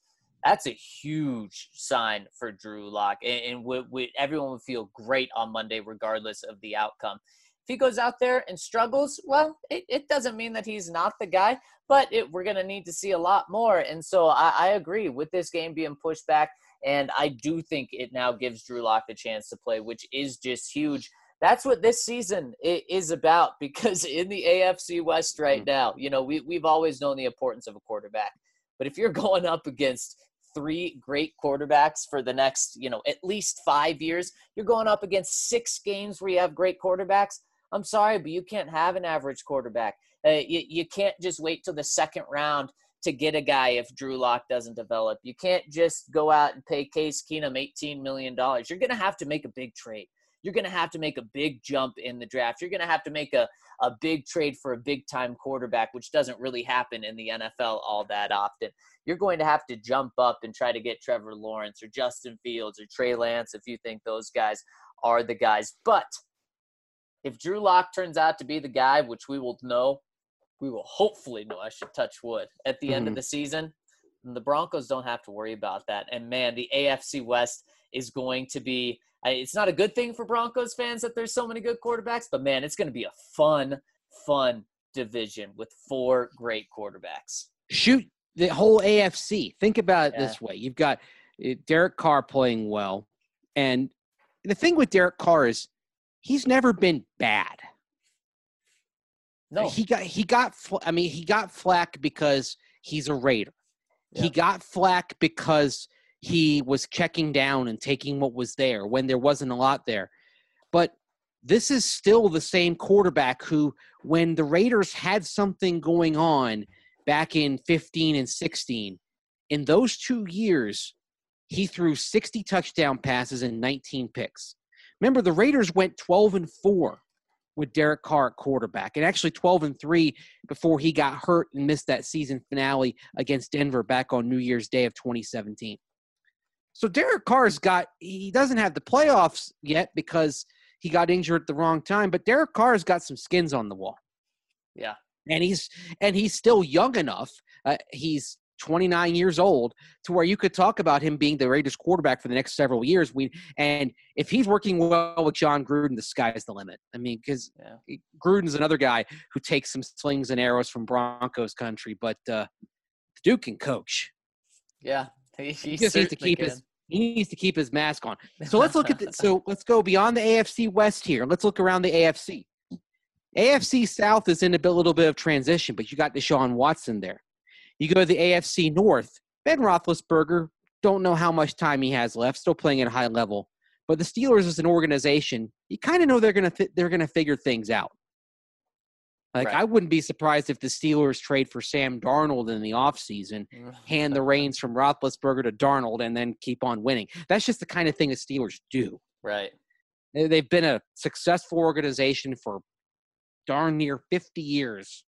That's a huge sign for Drew Lock, and, and we, we, everyone would feel great on Monday regardless of the outcome. If he goes out there and struggles, well, it, it doesn't mean that he's not the guy, but it, we're going to need to see a lot more. And so I, I agree with this game being pushed back, and I do think it now gives Drew Lock the chance to play, which is just huge. That's what this season is about, because in the A F C West right now, you know, we, we've always known the importance of a quarterback. But if you're going up against three great quarterbacks for the next, you know, at least five years, you're going up against six games where you have great quarterbacks. I'm sorry, but you can't have an average quarterback. Uh, you, you can't just wait till the second round to get a guy if Drew Lock doesn't develop. You can't just go out and pay Case Keenum eighteen million dollars. You're going to have to make a big trade. You're going to have to make a big jump in the draft. You're going to have to make a, a big trade for a big-time quarterback, which doesn't really happen in the N F L all that often. You're going to have to jump up and try to get Trevor Lawrence or Justin Fields or Trey Lance if you think those guys are the guys. But if Drew Lock turns out to be the guy, which we will know, we will hopefully know, I should touch wood, at the mm-hmm. end of the season, the Broncos don't have to worry about that. And, man, the A F C West is going to be – it's not a good thing for Broncos fans that there's so many good quarterbacks, but, man, it's going to be a fun, fun division with four great quarterbacks. Shoot the whole A F C. Think about it Yeah. this way. You've got Derek Carr playing well. And the thing with Derek Carr is he's never been bad. No. He got he got I mean he got flack because he's a Raider. Yeah. He got flack because he was checking down and taking what was there when there wasn't a lot there. But this is still the same quarterback who, when the Raiders had something going on back in fifteen and sixteen, in those two years, he threw sixty touchdown passes and nineteen picks. Remember, the Raiders went twelve and four with Derek Carr at quarterback, and actually twelve and three before he got hurt and missed that season finale against Denver back on New Year's Day of twenty seventeen. So Derek Carr's got – he doesn't have the playoffs yet because he got injured at the wrong time, but Derek Carr's got some skins on the wall. Yeah. And he's and he's still young enough. Uh, he's twenty-nine years old to where you could talk about him being the Raiders quarterback for the next several years. We and if he's working well with John Gruden, the sky's the limit. I mean, because yeah. Gruden's another guy who takes some slings and arrows from Broncos country, but uh, the Duke can coach. Yeah, he, he, he just needs to keep can. his he needs to keep his mask on. So let's look at the, so let's go beyond the A F C West here. Let's look around the A F C. A F C South is in a little bit of transition, but you got Deshaun Watson there. You go to the A F C North, Ben Roethlisberger, don't know how much time he has left, still playing at a high level. But the Steelers as an organization, you kind of know they're going to th- they're going to figure things out. Like, right. I wouldn't be surprised if the Steelers trade for Sam Darnold in the offseason, hand the reins from Roethlisberger to Darnold, and then keep on winning. That's just the kind of thing the Steelers do. Right. They've been a successful organization for darn near fifty years.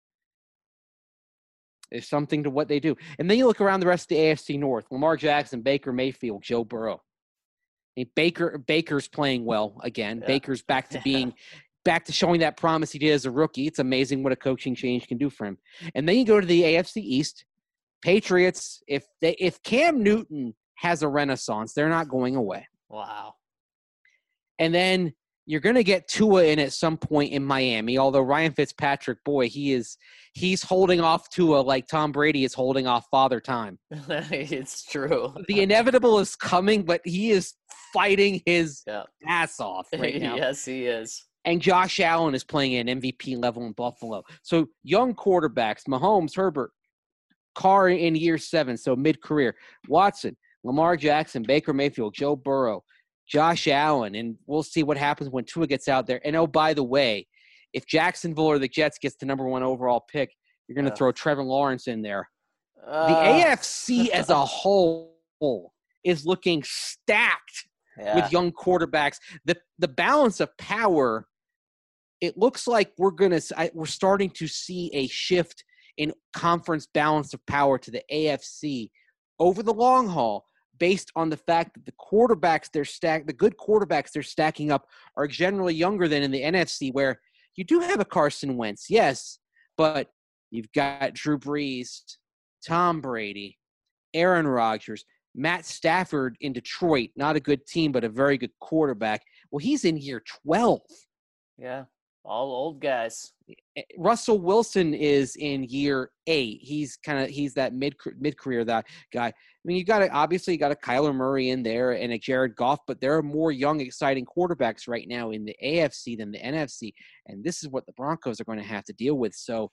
There's something to what they do. And then you look around the rest of the A F C North. Lamar Jackson, Baker Mayfield, Joe Burrow. I mean, Baker Baker's playing well again. Yeah. Baker's back to being back to showing that promise he did as a rookie. It's amazing what a coaching change can do for him. And then you go to the A F C East. Patriots, if they if Cam Newton has a renaissance, they're not going away. Wow. And then you're going to get Tua in at some point in Miami, although Ryan Fitzpatrick, boy, he is he's holding off Tua like Tom Brady is holding off Father Time. It's true. The inevitable is coming, but he is fighting his yeah. ass off right now. Yes, he is. And Josh Allen is playing at an M V P level in Buffalo. So young quarterbacks, Mahomes, Herbert, Carr in year seven, so mid-career, Watson, Lamar Jackson, Baker Mayfield, Joe Burrow, Josh Allen, and we'll see what happens when Tua gets out there. And, oh, by the way, if Jacksonville or the Jets gets the number one overall pick, you're going to uh, throw Trevor Lawrence in there. Uh, the A F C as a whole is looking stacked yeah. with young quarterbacks. The the balance of power, it looks like we're going to we're starting to see a shift in conference balance of power to the A F C over the long haul, based on the fact that the quarterbacks they're stack the good quarterbacks they're stacking up are generally younger than in the N F C, where you do have a Carson Wentz, yes, but you've got Drew Brees, Tom Brady, Aaron Rodgers, Matt Stafford in Detroit, not a good team, but a very good quarterback. Well, he's in year twelve. Yeah, all old guys. Russell Wilson is in year eight. He's kind of he's that mid mid career that guy. I mean, you got to obviously you got a Kyler Murray in there and a Jared Goff, but there are more young, exciting quarterbacks right now in the A F C than the N F C, and this is what the Broncos are going to have to deal with. So,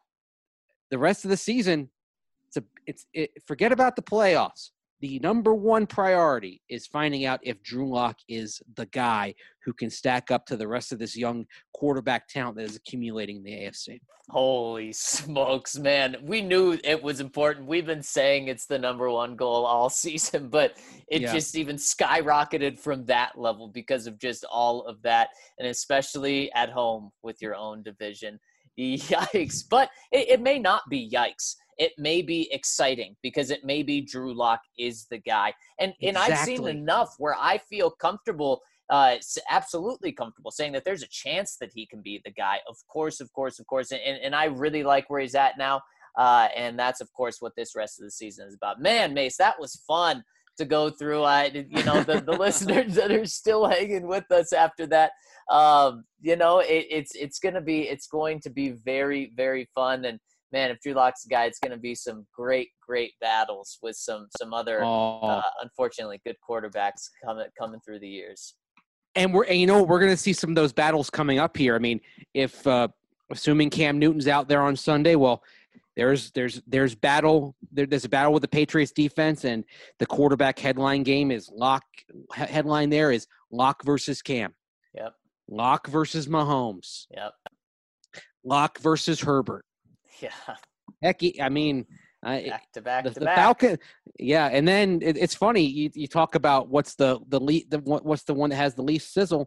the rest of the season, it's a it's it, forget about the playoffs. The number one priority is finding out if Drew Lock is the guy who can stack up to the rest of this young quarterback talent that is accumulating in the A F C. Holy smokes, man. We knew it was important. We've been saying it's the number one goal all season, but it Yeah. just even skyrocketed from that level because of just all of that, and especially at home with your own division. Yikes. But it, it may not be yikes. It may be exciting because it may be Drew Lock is the guy. And and I've seen Exactly. enough where I feel comfortable, uh, s- absolutely comfortable saying that there's a chance that he can be the guy. Of course, of course, of course. And, and I really like where he's at now. Uh, and that's, of course, what this rest of the season is about. Man, Mace, that was fun to go through. I, you know, the, the listeners that are still hanging with us after that, um, you know, it, it's it's going to be it's going to be very, very fun. And man, if Drew Lock's the guy, it's going to be some great, great battles with some some other, Oh. uh, unfortunately, good quarterbacks coming coming through the years. And we're, and you know, we're going to see some of those battles coming up here. I mean, if uh, assuming Cam Newton's out there on Sunday, well, there's there's there's battle. There, there's a battle with the Patriots defense, and the quarterback headline game is Lock. Headline there is Lock versus Cam. Yep. Lock versus Mahomes. Yep. Lock versus Herbert. Yeah. Heck, I mean, I, Back to back the, to the back. Falcon, yeah, and then it, it's funny. You, you talk about what's the the, lead, the what- what's the one that has the least sizzle.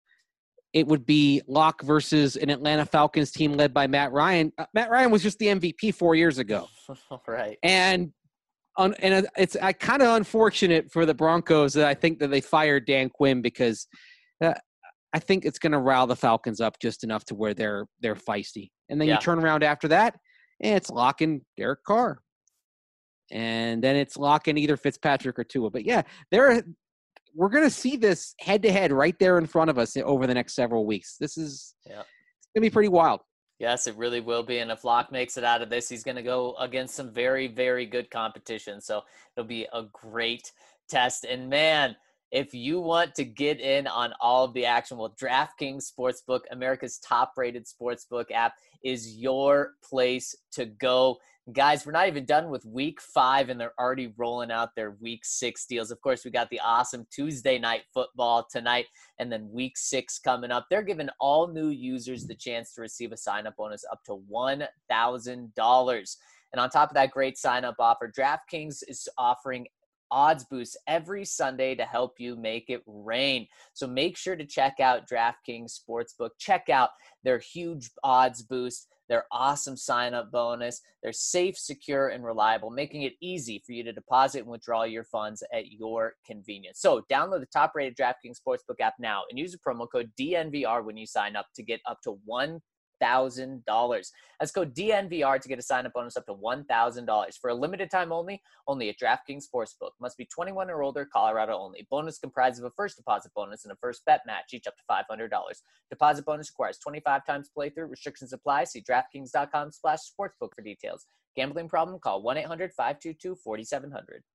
It would be Locke versus an Atlanta Falcons team led by Matt Ryan. Uh, Matt Ryan was just the M V P four years ago, Right. and on, and it's I kind of unfortunate for the Broncos that I think that they fired Dan Quinn because uh, I think it's going to rile the Falcons up just enough to where they're they're feisty, and then Yeah. you turn around after that, and it's Locke and Derek Carr. And then it's Locke and either Fitzpatrick or Tua. But yeah, there we're going to see this head to head right there in front of us over the next several weeks. This is Yeah. it's going to be pretty wild. Yes, it really will be. And if Locke makes it out of this, he's going to go against some very, very good competition. So it'll be a great test. And man, if you want to get in on all of the action, well, DraftKings Sportsbook, America's top-rated sportsbook app, is your place to go. Guys, we're not even done with week five, and they're already rolling out their week six deals. Of course, we got the awesome Tuesday night football tonight, and then week six coming up. They're giving all new users the chance to receive a sign-up bonus up to one thousand dollars. And on top of that great sign-up offer, DraftKings is offering odds boosts every Sunday to help you make it rain. So make sure to check out DraftKings Sportsbook. Check out their huge odds boost, their awesome sign-up bonus. They're safe, secure, and reliable, making it easy for you to deposit and withdraw your funds at your convenience. So download the top-rated DraftKings Sportsbook app now and use the promo code D N V R when you sign up to get up to one thousand dollars. That's code D N V R to get a sign-up bonus up to one thousand dollars. For a limited time only, only at DraftKings Sportsbook. Must be twenty-one or older, Colorado only. Bonus comprised of a first deposit bonus and a first bet match, each up to five hundred dollars. Deposit bonus requires twenty-five times playthrough. Restrictions apply. See DraftKings.com slash sportsbook for details. Gambling problem? Call one eight hundred five two two four seven zero zero.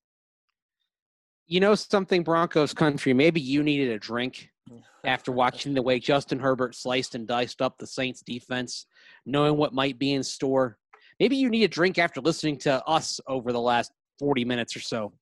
You know something, Broncos country, maybe you needed a drink after watching the way Justin Herbert sliced and diced up the Saints defense, knowing what might be in store. Maybe you need a drink after listening to us over the last forty minutes or so.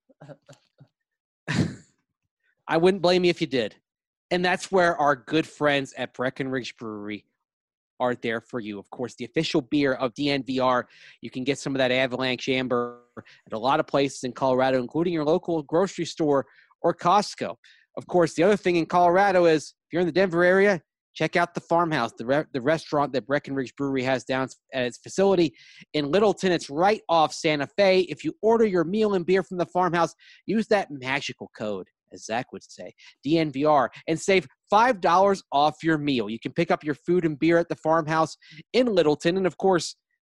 I wouldn't blame you if you did. And that's where our good friends at Breckenridge Brewery are there for you. Of course, the official beer of D N V R. You can get some of that Avalanche Amber at a lot of places in Colorado, including your local grocery store or Costco. Of course, the other thing in Colorado is if you're in the Denver area, check out the Farmhouse, the re- the restaurant that Breckenridge Brewery has down at its facility in Littleton. It's right off Santa Fe. If you order your meal and beer from the Farmhouse, use that magical code, as Zach would say, D N V R, and save five dollars off your meal. You can pick up your food and beer at the Farmhouse in Littleton. And, of course,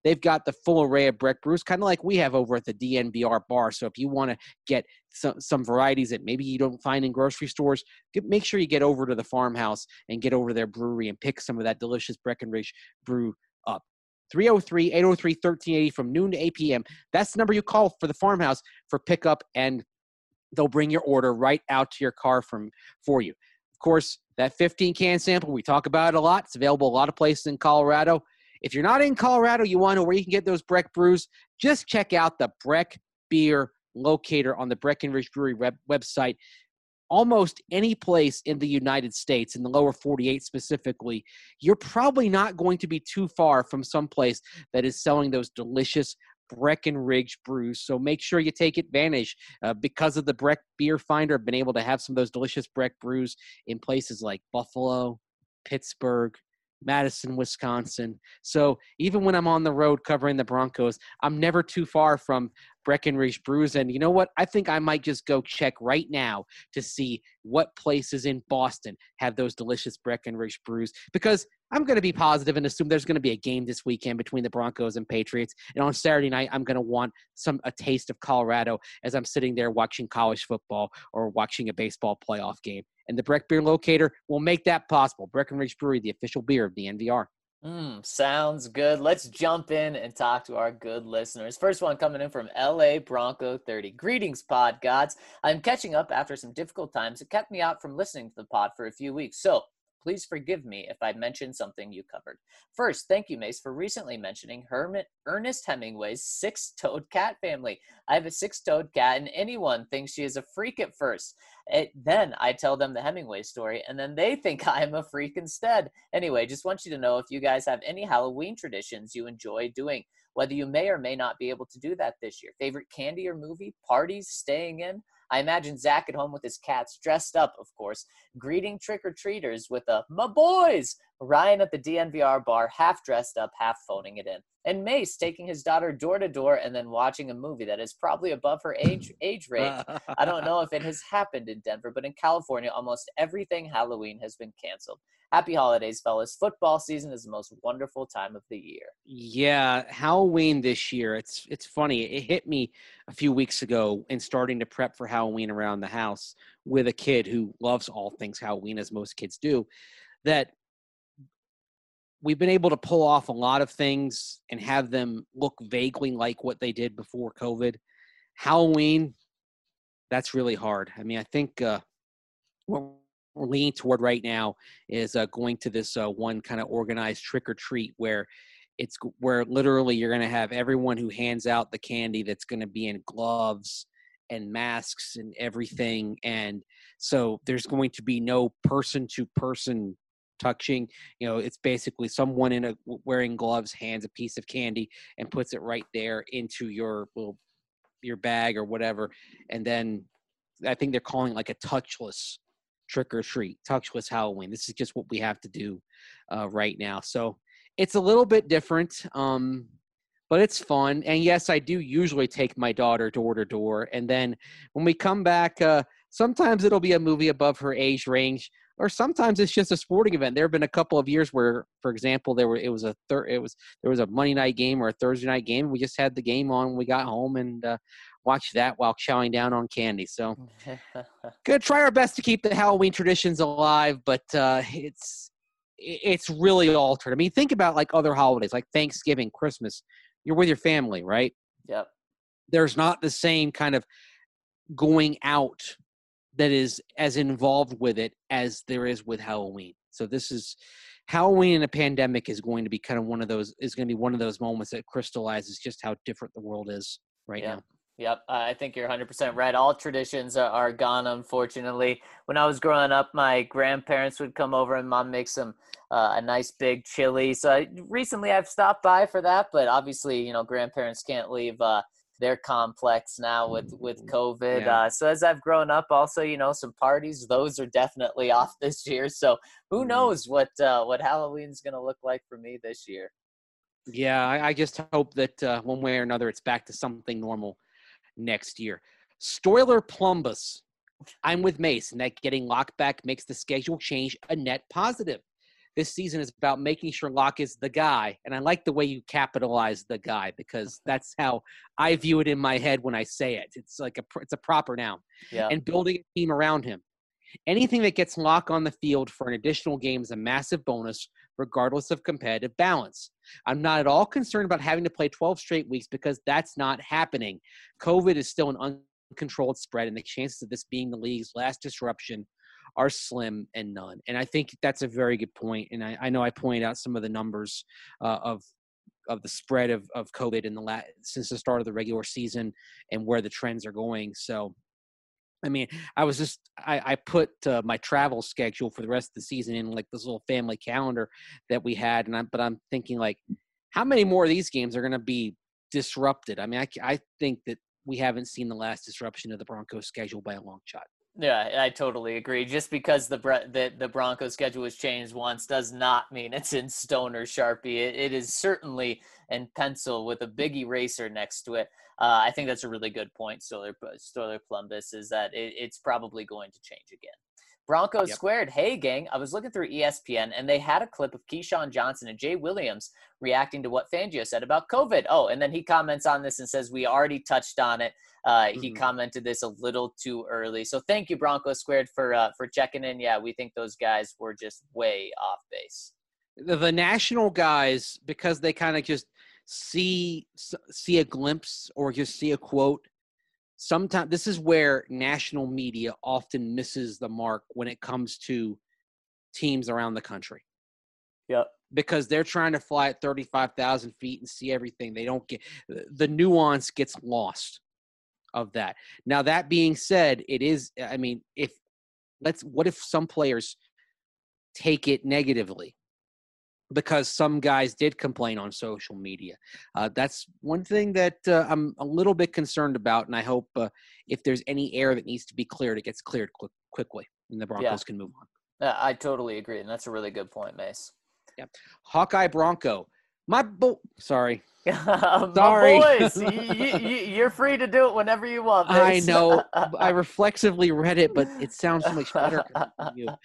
they've got the full array of Breck brews, kind of like we have over at the D N V R bar. So if you want to get some, some varieties that maybe you don't find in grocery stores, get, make sure you get over to the farmhouse and get over to their brewery and pick some of that delicious Breckenridge brew up. three oh three, eight oh three, thirteen eighty from noon to eight p.m. That's the number you call for the farmhouse for pickup, and they'll bring your order right out to your car from for you. Of course, that fifteen-can sample, we talk about it a lot. It's available a lot of places in Colorado. If you're not in Colorado, you want to know where you can get those Breck brews, just check out the Breck Beer Locator on the Breckenridge Brewery web- website. Almost any place in the United States, in the lower forty-eight specifically, you're probably not going to be too far from some place that is selling those delicious Breckenridge brews. So make sure you take advantage. Uh, because of the Breck Beer Finder, I've been able to have some of those delicious Breck brews in places like Buffalo, Pittsburgh, Madison, Wisconsin. So even when I'm on the road covering the Broncos, I'm never too far from Breckenridge brews. And you know what? I think I might just go check right now to see what places in Boston have those delicious Breckenridge brews, because I'm going to be positive and assume there's going to be a game this weekend between the Broncos and Patriots. And on Saturday night, I'm going to want some a taste of Colorado as I'm sitting there watching college football or watching a baseball playoff game. And the Breck Beer Locator will make that possible. Breckenridge Brewery, the official beer of the N V R. Mm, sounds good. Let's jump in and talk to our good listeners. First one coming in from L A Bronco thirty. Greetings, pod gods. I'm catching up after some difficult times that kept me out from listening to the pod for a few weeks. So please forgive me if I mentioned something you covered. First, thank you, Mace, for recently mentioning Hermit Ernest Hemingway's six-toed cat family. I have a six-toed cat, and anyone thinks she is a freak at first. It, then I tell them the Hemingway story, and then they think I am a freak instead. Anyway, just want you to know if you guys have any Halloween traditions you enjoy doing, whether you may or may not be able to do that this year. Favorite candy or movie, parties, staying in? I imagine Zach at home with his cats, dressed up, of course, greeting trick-or-treaters with a "my boys," Ryan at the D N V R bar, half dressed up, half phoning it in, and Mace taking his daughter door-to-door and then watching a movie that is probably above her age age range. I don't know if it has happened in Denver, but in California, almost everything Halloween has been canceled. Happy holidays, fellas. Football season is the most wonderful time of the year. Yeah, Halloween this year. It's it's funny. It hit me a few weeks ago in starting to prep for Halloween around the house with a kid who loves all things Halloween, as most kids do, that we've been able to pull off a lot of things and have them look vaguely like what they did before COVID. Halloween, that's really hard. I mean, I think uh, what we're leaning toward right now is uh, going to this uh, one kind of organized trick or treat where it's where literally you're going to have everyone who hands out the candy that's going to be in gloves and masks and everything. And so there's going to be no person to person touching. You know, it's basically someone in a wearing gloves hands a piece of candy and puts it right there into your little your bag or whatever. And then I think they're calling like a touchless trick or treat, touchless Halloween. This is just what we have to do uh, right now. So it's a little bit different, um, but it's fun. And yes, I do usually take my daughter door to door. And then when we come back, uh, sometimes it'll be a movie above her age range, or sometimes it's just a sporting event. There have been a couple of years where, for example, there were it was a thir- it was there was a Monday night game or a Thursday night game. We just had the game on when we got home and uh, watched that while chowing down on candy. So, gonna try our best to keep the Halloween traditions alive, but uh, it's it's really altered. I mean, think about like other holidays, like Thanksgiving, Christmas. You're with your family, right? Yep. There's not the same kind of going out that is as involved with it as there is with Halloween. So this is Halloween in a pandemic is going to be kind of one of those is going to be one of those moments that crystallizes just how different the world is right yep. now. Yep. I think you're one hundred percent right. All traditions are, are gone, unfortunately. When I was growing up, my grandparents would come over and mom makes some uh, a nice big chili. So I, recently I've stopped by for that, but obviously, you know, grandparents can't leave uh, their complex now with, with COVID. Yeah. Uh, so as I've grown up also, you know, some parties, those are definitely off this year. So who Mm-hmm. knows what, uh, what Halloween's going to look like for me this year. Yeah. I, I just hope that uh, one way or another, it's back to something normal next year. Stoiler Plumbus. I'm with Mace, and that getting locked back makes the schedule change a net positive. this season is about making sure Locke is the guy. And I like the way you capitalize the guy, because that's how I view it in my head when I say it. It's like a, it's a proper noun. Yeah. And building a team around him. Anything that gets Locke on the field for an additional game is a massive bonus, regardless of competitive balance. I'm not at all concerned about having to play twelve straight weeks, because that's not happening. COVID is still an uncontrolled spread, and the chances of this being the league's last disruption are slim and none. And I think that's a very good point. And I, I know I pointed out some of the numbers uh, of of the spread of, of COVID in the la- since the start of the regular season and where the trends are going. So, I mean, I was just I, I put uh, my travel schedule for the rest of the season in like this little family calendar that we had, and I'm but I'm thinking, like, how many more of these games are going to be disrupted? I mean, I, I think that we haven't seen the last disruption of the Broncos schedule by a long shot. Yeah, I totally agree. Just because the the, the Broncos schedule was changed once does not mean it's in stone or Sharpie. It, it is certainly in pencil with a big eraser next to it. Uh, I think that's a really good point, Stoller, Stoller Plumbus, is that it, it's probably going to change again. Broncos Yep. Squared. Hey, gang. I was looking through E S P N, and they had a clip of Keyshawn Johnson and Jay Williams reacting to what Fangio said about COVID. Oh, and then he comments on this and says, we already touched on it. Uh, he Mhm. commented this a little too early. So thank you, Broncos Squared, for uh, for checking in. Yeah, we think those guys were just way off base. The, the national guys, because they kind of just see see a glimpse or just see a quote. Sometimes this is where national media often misses the mark when it comes to teams around the country, Yep. because they're trying to fly at thirty-five thousand feet and see everything. They don't get the nuance gets lost of that. Now, that being said, it is, I mean, if let's, what if some players take it negatively because some guys did complain on social media? Uh, that's one thing that uh, I'm a little bit concerned about, and I hope uh, if there's any air that needs to be cleared, it gets cleared quick, quickly, and the Broncos Yeah. can move on. Uh, I totally agree, and that's a really good point, Mace. Yeah, Hawkeye Bronco. My bo- sorry. My Sorry. boys, you, you, you're free to do it whenever you want, I Mace. know. I reflexively read it, but it sounds so much better coming from you.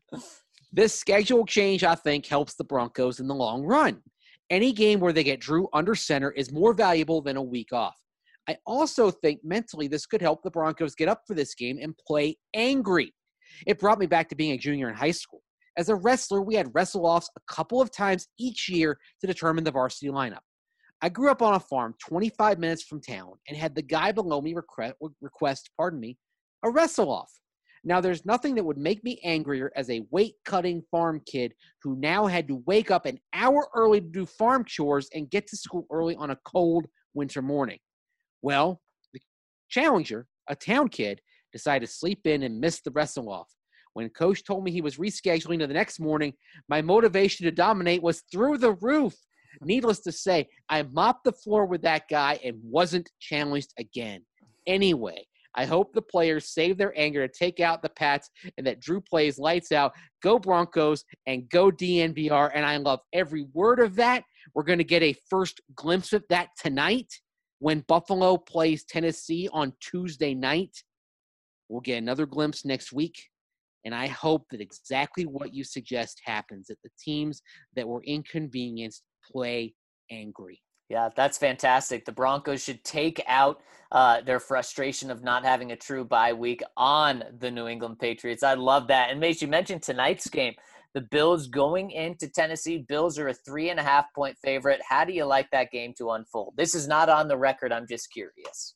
This schedule change, I think, helps the Broncos in the long run. Any game where they get Drew under center is more valuable than a week off. I also think mentally this could help the Broncos get up for this game and play angry. It brought me back to being a junior in high school. As a wrestler, we had wrestle-offs a couple of times each year to determine the varsity lineup. I grew up on a farm twenty-five minutes from town and had the guy below me request, request pardon me, a wrestle-off. Now, there's nothing that would make me angrier as a weight-cutting farm kid who now had to wake up an hour early to do farm chores and get to school early on a cold winter morning. Well, the challenger, a town kid, decided to sleep in and miss the wrestle-off. When Coach told me he was rescheduling to the next morning, my motivation to dominate was through the roof. Needless to say, I mopped the floor with that guy and wasn't challenged again. Anyway, I hope the players save their anger to take out the Pats and that Drew plays lights out. Go Broncos and go D N V R. And I love every word of that. We're going to get a first glimpse of that tonight when Buffalo plays Tennessee on Tuesday night. We'll get another glimpse next week. And I hope that exactly what you suggest happens, that the teams that were inconvenienced play angry. Yeah, that's fantastic. The Broncos should take out uh, their frustration of not having a true bye week on the New England Patriots. I love that. And Mace, you mentioned tonight's game. The Bills going into Tennessee. Bills are a three and a half point favorite. How do you like that game to unfold? This is not on the record. I'm just curious.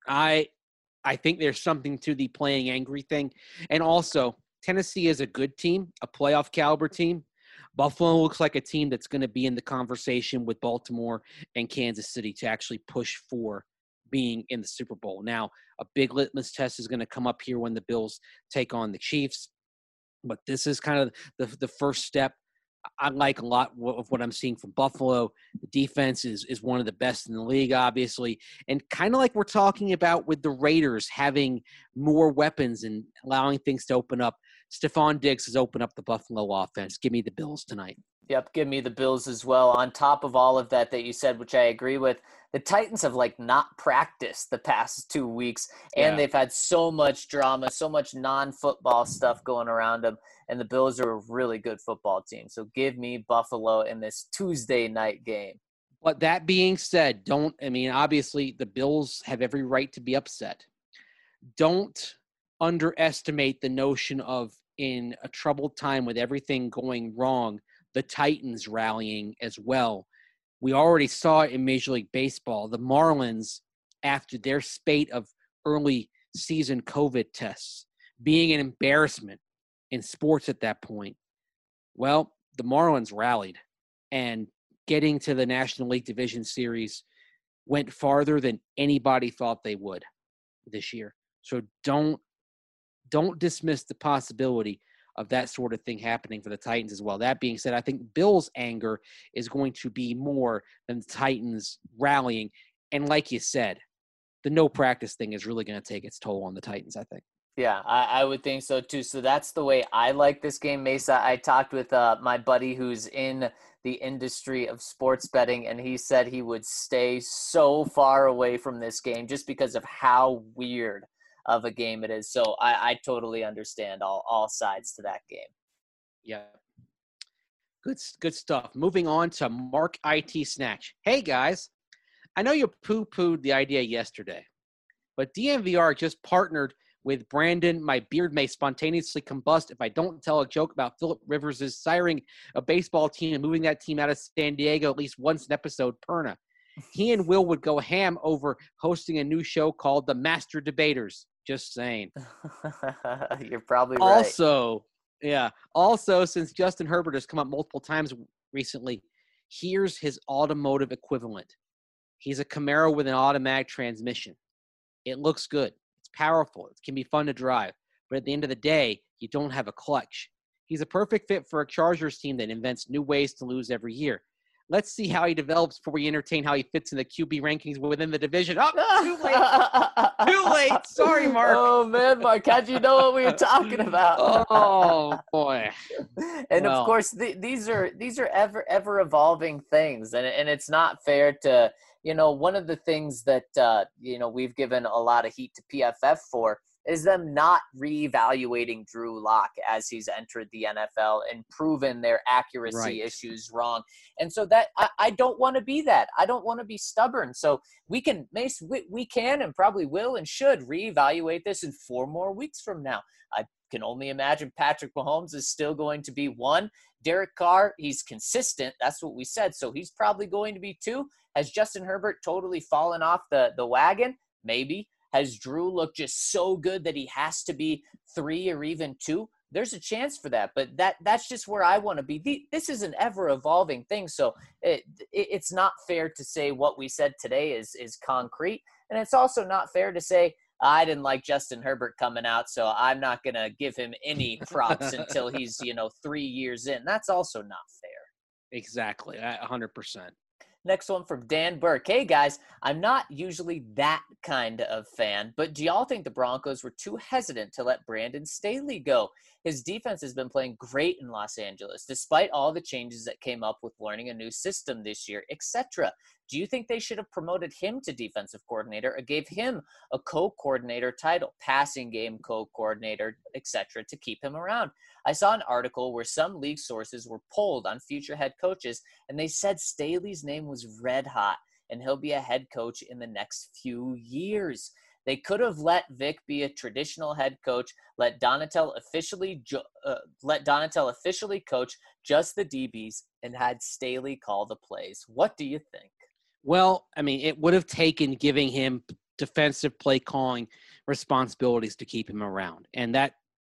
I I think there's something to the playing angry thing. And also, Tennessee is a good team, a playoff caliber team. Buffalo looks like a team that's going to be in the conversation with Baltimore and Kansas City to actually push for being in the Super Bowl. Now, a big litmus test is going to come up here when the Bills take on the Chiefs. But this is kind of the, the first step. I like a lot of what I'm seeing from Buffalo. The defense is is one of the best in the league, obviously. And kind of like we're talking about with the Raiders having more weapons and allowing things to open up, Stephon Diggs has opened up the Buffalo offense. Give me the Bills tonight. Yep, give me the Bills as well. On top of all of that that you said, which I agree with, the Titans have like not practiced the past two weeks, and Yeah. they've had so much drama, so much non-football stuff going around them. And the Bills are a really good football team. So give me Buffalo in this Tuesday night game. But that being said, don't, I mean, obviously the Bills have every right to be upset. Don't underestimate the notion of, in a troubled time with everything going wrong, the Titans rallying as well. We already saw it in Major League Baseball. The Marlins, after their spate of early season COVID tests, being an embarrassment in sports at that point, well, the Marlins rallied, and getting to the National League Division Series went farther than anybody thought they would this year. So don't don't dismiss the possibility of that sort of thing happening for the Titans as well. That being said, I think Bill's anger is going to be more than the Titans rallying. And like you said, the no practice thing is really going to take its toll on the Titans, I think. Yeah, I, I would think so too. So that's the way I like this game, Mesa. I talked with uh, my buddy who's in the industry of sports betting, and he said he would stay so far away from this game just because of how weird of a game it is. So I, I totally understand all, all sides to that game. Yeah. Good, good stuff. Moving on to Mark I T Snatch. Hey, guys. I know you poo-pooed the idea yesterday, but D N V R just partnered with Brandon. My beard may spontaneously combust if I don't tell a joke about Phillip Rivers' siring a baseball team and moving that team out of San Diego at least once an episode perna. He and Will would go ham over hosting a new show called The Master Debaters. Just saying. You're probably right. Also, yeah. Also, since Justin Herbert has come up multiple times recently, here's his automotive equivalent. He's a Camaro with an automatic transmission. It looks good. It's powerful. It can be fun to drive. But at the end of the day, you don't have a clutch. He's a perfect fit for a Chargers team that invents new ways to lose every year. Let's see how he develops before we entertain how he fits in the Q B rankings within the division. Oh, too late. Too late. Sorry, Mark. Oh, man, Mark, how'd you know what we were talking about? Oh, boy. And, well. of course, th- these are these are ever, ever evolving things. And, and it's not fair to, you know, one of the things that, uh, you know, we've given a lot of heat to P F F for is them not reevaluating Drew Lock as he's entered the N F L and proven their accuracy right. issues wrong. And so that I, I don't want to be that. I don't want to be stubborn. So we can, Mace, we, we can and probably will and should reevaluate this in four more weeks from now. I can only imagine Patrick Mahomes is still going to be one. Derek Carr, he's consistent. That's what we said. So he's probably going to be two. Has Justin Herbert totally fallen off the, the wagon? Maybe. Has Drew looked just so good that he has to be three or even two? There's a chance for that, but that that's just where I want to be. The, this is an ever-evolving thing, so it, it, it's not fair to say what we said today is is concrete, and it's also not fair to say, I didn't like Justin Herbert coming out, so I'm not going to give him any props until he's, you know, three years in. That's also not fair. Exactly, one hundred percent. Next one from Dan Burke. Hey, guys, I'm not usually that kind of fan, but do y'all think the Broncos were too hesitant to let Brandon Staley go? His defense has been playing great in Los Angeles, despite all the changes that came up with learning a new system this year, et cetera. Do you think they should have promoted him to defensive coordinator or gave him a co-coordinator title, passing game co-coordinator, et cetera, to keep him around? I saw an article where some league sources were polled on future head coaches, and they said Staley's name was red hot, and he'll be a head coach in the next few years. They could have let Vic be a traditional head coach, let Donatel officially uh, let Donatel officially coach just the D Bs, and had Staley call the plays. What do you think? Well, I mean, it would have taken giving him defensive play calling responsibilities to keep him around. And that,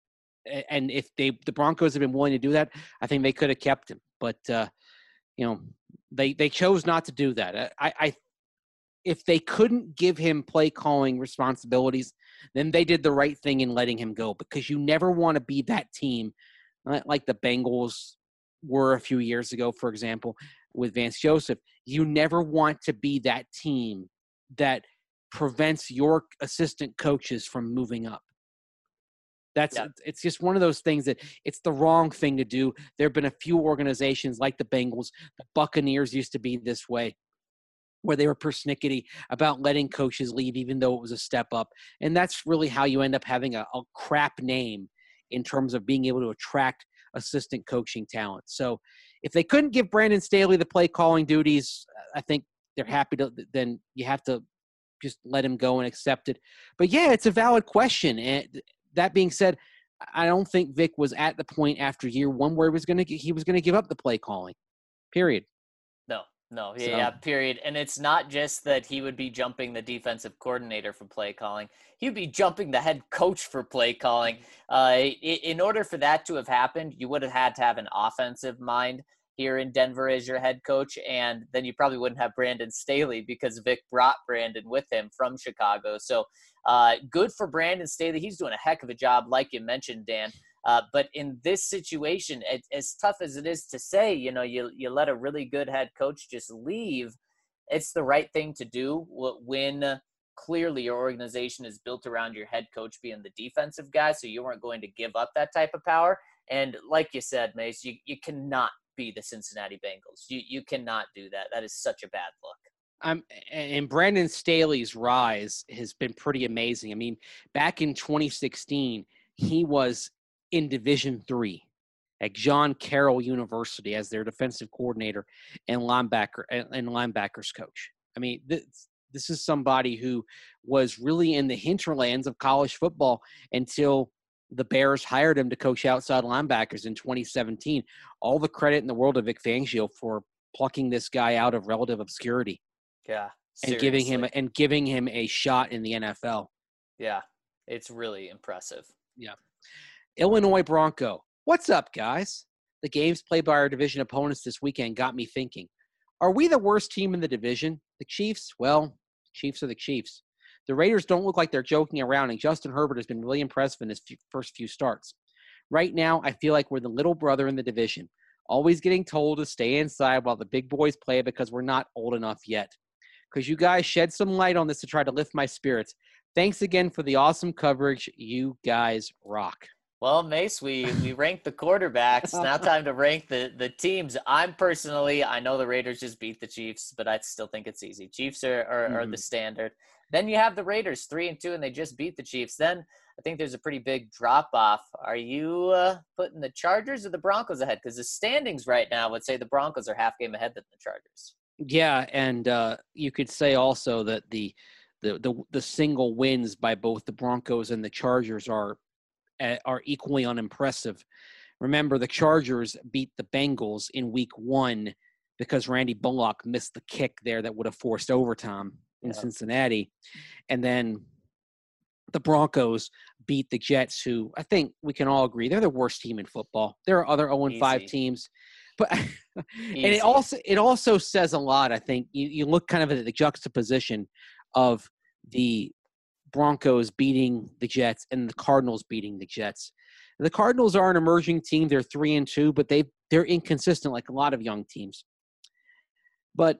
and if they, the Broncos have been willing to do that, I think they could have kept him. But, uh, you know, they, they chose not to do that. I, I, if they couldn't give him play calling responsibilities, then they did the right thing in letting him go, because you never want to be that team like the Bengals were a few years ago, for example, with Vance Joseph. You never want to be that team that prevents your assistant coaches from moving up. That's yeah. It's just one of those things that it's the wrong thing to do. There have been a few organizations like the Bengals, the Buccaneers used to be this way. where they were persnickety about letting coaches leave, even though it was a step up. And that's really how you end up having a, a crap name in terms of being able to attract assistant coaching talent. So if they couldn't give Brandon Staley the play calling duties, I think they're happy to, then you have to just let him go and accept it. But yeah, it's a valid question. And that being said, I don't think Vic was at the point after year one where he was going to, he was going to give up the play calling, period. No, no, So- yeah, period. And it's not just that he would be jumping the defensive coordinator for play calling. He would be jumping the head coach for play calling. Uh, i- in order for that to have happened, you would have had to have an offensive mind here in Denver as your head coach, and then you probably wouldn't have Brandon Staley because Vic brought Brandon with him from Chicago. So uh, good for Brandon Staley. He's doing a heck of a job, like you mentioned, Dan. Uh, but in this situation, it, as tough as it is to say, you know, you you let a really good head coach just leave, it's the right thing to do when clearly your organization is built around your head coach being the defensive guy, so you weren't going to give up that type of power. And like you said, Mace, you, you cannot be the Cincinnati Bengals. You you cannot do that. That is such a bad look. Um, and Brandon Staley's rise has been pretty amazing. I mean, back in twenty sixteen, he was in Division three at John Carroll University as their defensive coordinator and linebacker and linebackers coach. I mean, this, this is somebody who was really in the hinterlands of college football until the Bears hired him to coach outside linebackers in twenty seventeen. All the credit in the world to Vic Fangio for plucking this guy out of relative obscurity. Yeah, and giving him and giving him a shot in the N F L. Yeah, it's really impressive. Yeah. Illinois Bronco. What's up, guys? The games played by our division opponents this weekend got me thinking. Are we the worst team in the division? The Chiefs? Well, Chiefs are the Chiefs. The Raiders don't look like they're joking around, and Justin Herbert has been really impressive in his few, first few starts. Right now, I feel like we're the little brother in the division, always getting told to stay inside while the big boys play because we're not old enough yet. Because you guys shed some light on this to try to lift my spirits. Thanks again for the awesome coverage. You guys rock. Well, Mace, we, we ranked the quarterbacks. Now time to rank the, the teams. I'm personally, I know the Raiders just beat the Chiefs, but I still think it's easy. Chiefs are, are, mm-hmm. are the standard. Then you have the Raiders, three and two, and they just beat the Chiefs. Then I think there's a pretty big drop-off. Are you uh, putting the Chargers or the Broncos ahead? Because the standings right now would say the Broncos are half game ahead than the Chargers. Yeah, and uh, you could say also that the, the the the single wins by both the Broncos and the Chargers are are equally unimpressive. Remember, the Chargers beat the Bengals in week one because Randy Bullock missed the kick there that would have forced overtime in yeah. Cincinnati. And then the Broncos beat the Jets, who I think we can all agree they're the worst team in football. There are other oh and five teams. But and it also it also says a lot, I think. You, you look kind of at the juxtaposition of the Broncos beating the Jets and the Cardinals beating the Jets. The Cardinals are an emerging team. They're three and two, but they they're inconsistent like a lot of young teams. But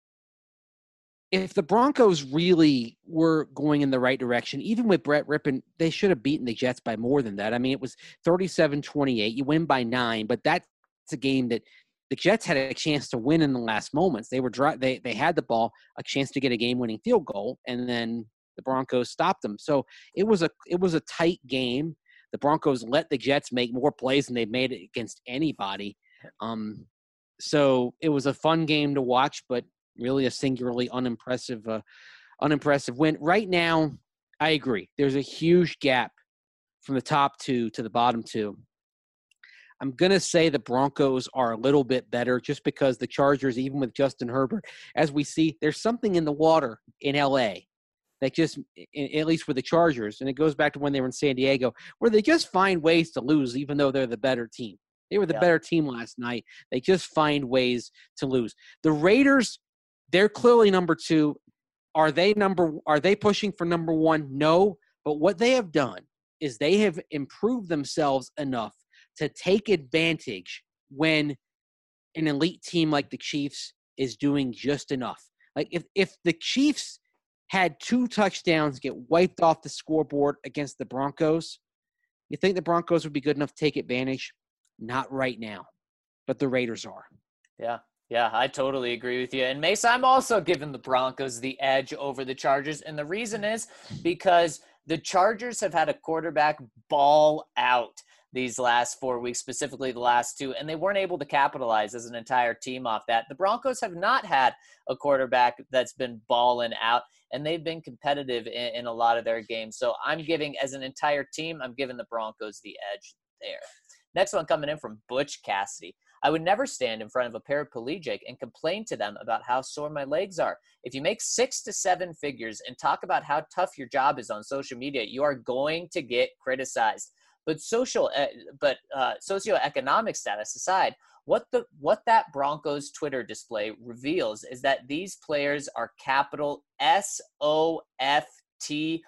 if the Broncos really were going in the right direction, even with Brett Rippon, they should have beaten the Jets by more than that. I mean, it was thirty-seven twenty-eight. You win by nine, but that's a game that the Jets had a chance to win in the last moments. They were dry, they they had the ball, a chance to get a game-winning field goal, and then the Broncos stopped them. So it was a it was a tight game. The Broncos let the Jets make more plays than they've made against anybody. Um, so it was a fun game to watch, but really a singularly unimpressive, uh, unimpressive win. Right now, I agree. There's a huge gap from the top two to the bottom two. I'm going to say the Broncos are a little bit better just because the Chargers, even with Justin Herbert, as we see, there's something in the water in L A that just, at least with the Chargers, and it goes back to when they were in San Diego, where they just find ways to lose even though they're the better team. They were the yeah. better team last night. They just find ways to lose. The Raiders, they're clearly number two. Are they number? Are they pushing for number one? No. But what they have done is they have improved themselves enough to take advantage when an elite team like the Chiefs is doing just enough. Like if, if the Chiefs had two touchdowns get wiped off the scoreboard against the Broncos, you think the Broncos would be good enough to take advantage? Not right now, but the Raiders are. Yeah. Yeah, I totally agree with you. And Mace, I'm also giving the Broncos the edge over the Chargers. And the reason is because the Chargers have had a quarterback ball out these last four weeks, specifically the last two, and they weren't able to capitalize as an entire team off that. The Broncos have not had a quarterback that's been balling out, and they've been competitive in, in a lot of their games. So I'm giving, as an entire team, I'm giving the Broncos the edge there. Next one coming in from Butch Cassidy. I would never stand in front of a paraplegic and complain to them about how sore my legs are. If you make six to seven figures and talk about how tough your job is on social media, you are going to get criticized. But social, uh, but uh, socioeconomic status aside, what the what that Broncos Twitter display reveals is that these players are capital S O F T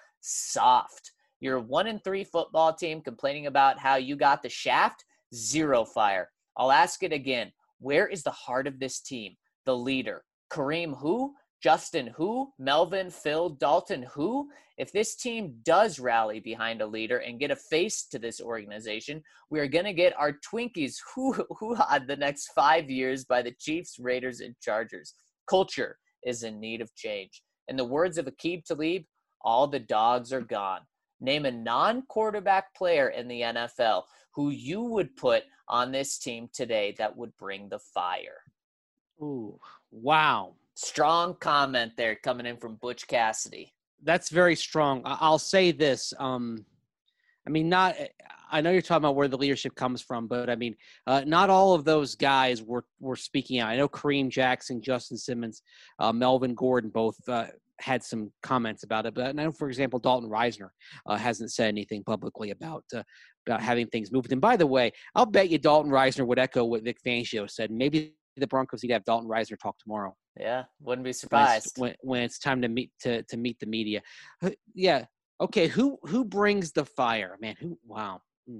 soft. You're a one and three football team complaining about how you got the shaft, zero fire. I'll ask it again. Where is the heart of this team? The leader. Kareem who? Justin who? Melvin, Phil, Dalton who? If this team does rally behind a leader and get a face to this organization, we are going to get our Twinkies who who had the next five years by the Chiefs, Raiders, and Chargers. Culture is in need of change. In the words of Aqib Talib, all the dogs are gone. Name a non-quarterback player in the N F L who you would put on this team today that would bring the fire. Ooh, wow. Strong comment there coming in from Butch Cassidy. That's very strong. I- I'll say this. Um, I mean, not. I know you're talking about where the leadership comes from, but I mean, uh, not all of those guys were were speaking out. I know Kareem Jackson, Justin Simmons, uh, Melvin Gordon both uh, had some comments about it. But I know, for example, Dalton Reisner uh, hasn't said anything publicly about uh, about having things moved. And by the way, I'll bet you Dalton Reisner would echo what Vic Fangio said. Maybe the Broncos need to have Dalton Reisner talk tomorrow. Yeah, wouldn't be surprised when it's, when, when it's time to meet to to meet the media. Uh, yeah. Okay. Who who brings the fire, man? Who? Wow. Hmm.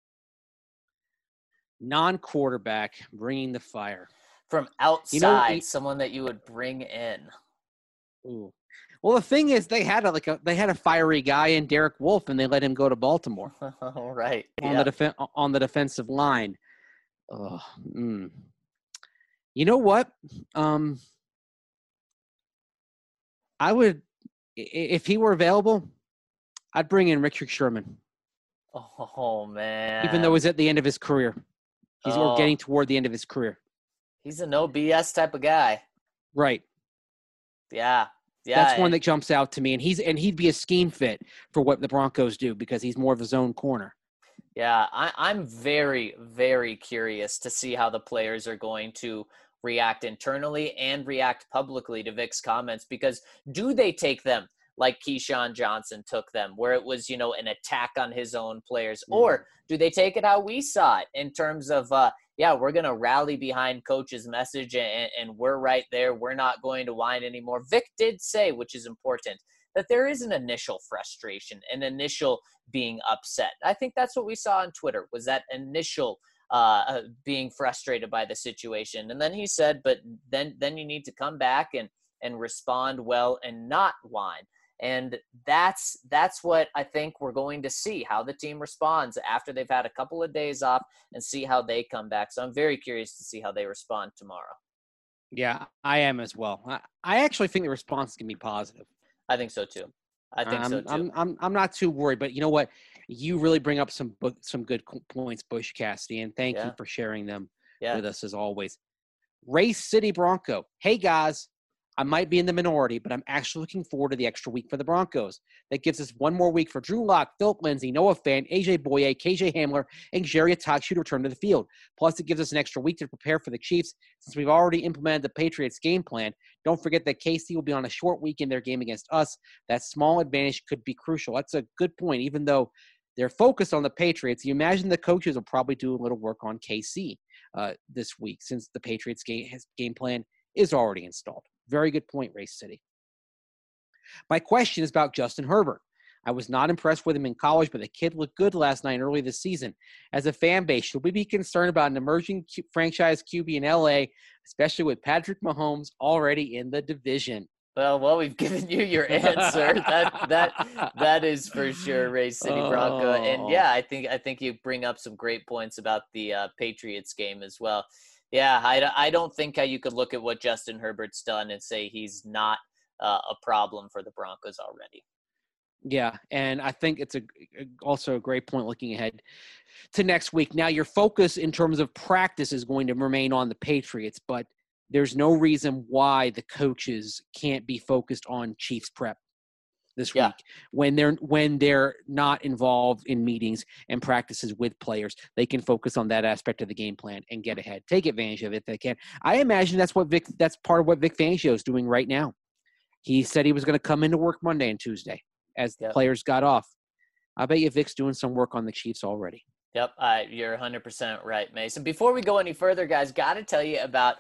Non-quarterback bringing the fire from outside. You know, he, someone that you would bring in. Ooh. Well, the thing is, they had a, like a they had a fiery guy in Derek Wolfe, and they let him go to Baltimore. All right. On yeah. the def- on the defensive line. Oh, mm. You know what? Um, I would, if he were available, I'd bring in Richard Sherman. Oh, man. Even though he's at the end of his career. He's oh. getting toward the end of his career. He's a no B S type of guy. Right. Yeah. Yeah. That's one that jumps out to me. And he's and he'd be a scheme fit for what the Broncos do because he's more of a zone corner. Yeah, I, I'm very, very curious to see how the players are going to react internally and react publicly to Vic's comments, because do they take them like Keyshawn Johnson took them, where it was, you know, an attack on his own players? Mm. Or do they take it how we saw it in terms of, uh, yeah, we're going to rally behind coach's message and, and we're right there. We're not going to whine anymore. Vic did say, which is important, that there is an initial frustration, an initial being upset. I think that's what we saw on Twitter, was that initial uh, being frustrated by the situation. And then he said, but then then you need to come back and, and respond well and not whine. And that's that's what I think we're going to see, how the team responds after they've had a couple of days off and see how they come back. So I'm very curious to see how they respond tomorrow. Yeah, I am as well. I, I actually think the response can be positive. I think so too. I think um, so too. I'm I'm I'm not too worried, but you know what? You really bring up some some good points, Butch Cassidy, and thank yeah. you for sharing them yeah. with us as always. Race City Bronco. Hey guys, I might be in the minority, but I'm actually looking forward to the extra week for the Broncos. That gives us one more week for Drew Lock, Philip Lindsay, Noah Fant, A J Boye, K J Hamler, and Jerry Atakshu to return to the field. Plus, it gives us an extra week to prepare for the Chiefs since we've already implemented the Patriots game plan. Don't forget that K C will be on a short week in their game against us. That small advantage could be crucial. That's a good point. Even though they're focused on the Patriots, you imagine the coaches will probably do a little work on K C uh, this week since the Patriots game, his game plan is already installed. Very good point, Race City. My question is about Justin Herbert. I was not impressed with him in college, but the kid looked good last night and early this season. As a fan base, should we be concerned about an emerging Q- franchise Q B in L A, especially with Patrick Mahomes already in the division? Well, well, we've given you your answer. that that that is for sure, Race City Bronco. Oh. And yeah, I think I think you bring up some great points about the uh, Patriots game as well. Yeah, I, I don't think how you could look at what Justin Herbert's done and say he's not uh, a problem for the Broncos already. Yeah, and I think it's a also a great point looking ahead to next week. Now, your focus in terms of practice is going to remain on the Patriots, but there's no reason why the coaches can't be focused on Chiefs prep this Yeah. week when they're when they're not involved in meetings and practices with players. They can focus on that aspect of the game plan and get ahead, take advantage of it if they can. I imagine that's what Vic that's part of what Vic Fangio is doing right now. He said he was going to come into work Monday and Tuesday as the Yep. players got off. I bet you Vic's doing some work on the Chiefs already. Yep, uh, you're one hundred percent right, Mason. Before we go any further, guys, got to tell you about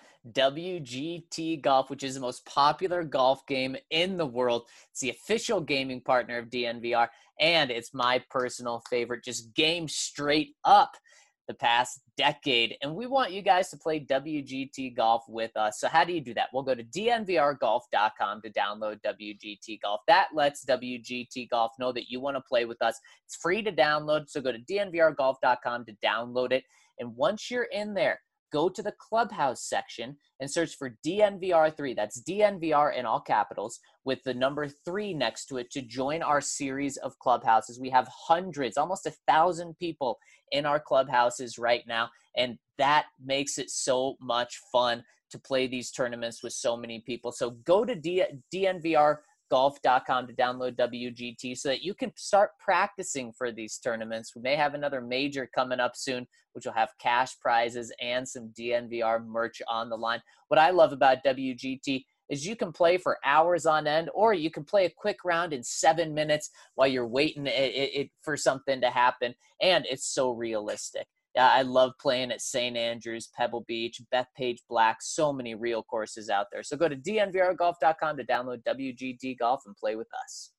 W G T Golf, which is the most popular golf game in the world. It's the official gaming partner of D N V R, and it's my personal favorite, just game straight up the past decade. And we want you guys to play W G T Golf with us. So how do you do that? We'll go to D N V R golf dot com to download W G T Golf. That lets W G T Golf know that you want to play with us. It's free to download, so go to D N V R golf dot com to download it. And once you're in there, go to the Clubhouse section and search for D N V R three. That's D N V R in all capitals with the number three next to it to join our series of clubhouses. We have hundreds, almost a thousand people in our clubhouses right now, and that makes it so much fun to play these tournaments with so many people. So go to D- DNVR golf dot com to download W G T so that you can start practicing for these tournaments. We may have another major coming up soon, which will have cash prizes and some D N V R merch on the line. What I love about W G T is you can play for hours on end, or you can play a quick round in seven minutes while you're waiting it, it, it for something to happen. And it's so realistic. Yeah, I love playing at Saint Andrews, Pebble Beach, Bethpage Black, so many real courses out there. So go to D N V R golf dot com to download W G T Golf and play with us.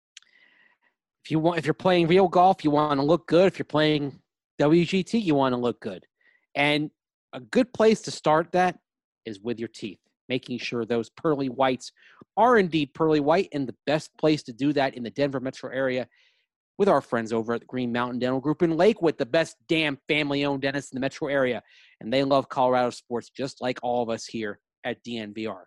If you want, if you're playing real golf, you want to look good. If you're playing W G T, you want to look good. And a good place to start that is with your teeth, making sure those pearly whites are indeed pearly white. And the best place to do that in the Denver metro area with our friends over at the Green Mountain Dental Group in Lakewood, the best damn family-owned dentist in the metro area. And they love Colorado sports just like all of us here at D N V R.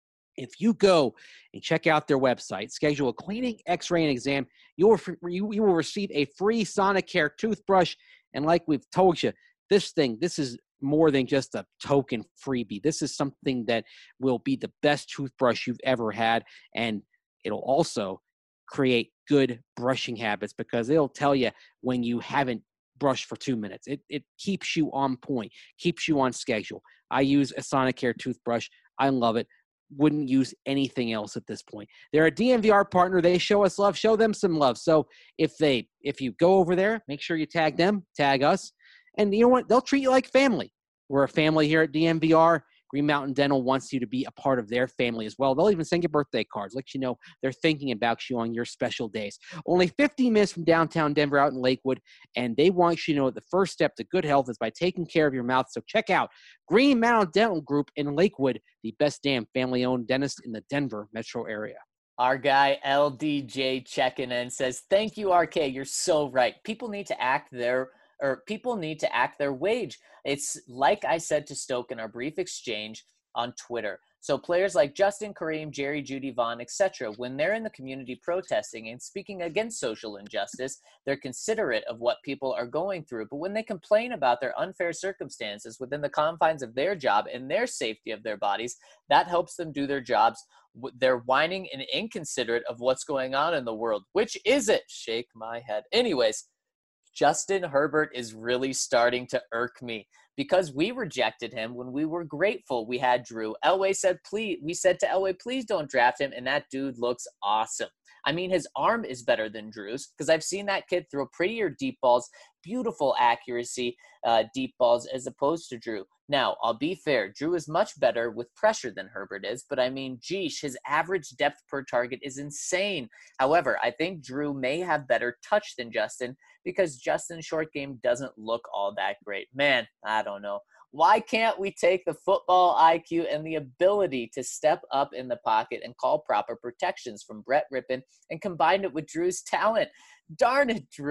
If you go and check out their website, schedule a cleaning, x-ray, and exam, you will, you, you will receive a free Sonicare toothbrush. And like we've told you, this thing, this is more than just a token freebie. This is something that will be the best toothbrush you've ever had. And it'll also create good brushing habits because it'll tell you when you haven't brushed for two minutes. It it keeps you on point, keeps you on schedule. I use a Sonicare toothbrush. I love it. Wouldn't use anything else at this point. They're a D N V R partner. They show us love. Show them some love. So if they if you go over there, make sure you tag them, tag us. And you know what? They'll treat you like family. We're a family here at D N V R. Green Mountain Dental wants you to be a part of their family as well. They'll even send you birthday cards, let you know they're thinking about you on your special days. Only fifteen minutes from downtown Denver out in Lakewood, and they want you to know that the first step to good health is by taking care of your mouth. So check out Green Mountain Dental Group in Lakewood, the best damn family-owned dentist in the Denver metro area. Our guy L D J checking in says, thank you, R K. You're so right. People need to act their or people need to act their wage. It's like I said to Stoke in our brief exchange on Twitter. So players like Justin, Kareem, Jerry, Judy, Vaughn, et cetera, when they're in the community protesting and speaking against social injustice, they're considerate of what people are going through. But when they complain about their unfair circumstances within the confines of their job and their safety of their bodies, that helps them do their jobs. They're whining and inconsiderate of what's going on in the world. Which is it? Shake my head. Anyways, Justin Herbert is really starting to irk me because we rejected him when we were grateful we had Drew. Elway said, please, we said to Elway, please don't draft him. And that dude looks awesome. I mean, his arm is better than Drew's because I've seen that kid throw prettier deep balls, beautiful accuracy, uh, deep balls as opposed to Drew. Now, I'll be fair. Drew is much better with pressure than Herbert is, but I mean, geesh, his average depth per target is insane. However, I think Drew may have better touch than Justin because Justin's short game doesn't look all that great. Man, I don't know. Why can't we take the football I Q and the ability to step up in the pocket and call proper protections from Brett Rippon and combine it with Drew's talent? Darn it, Drew.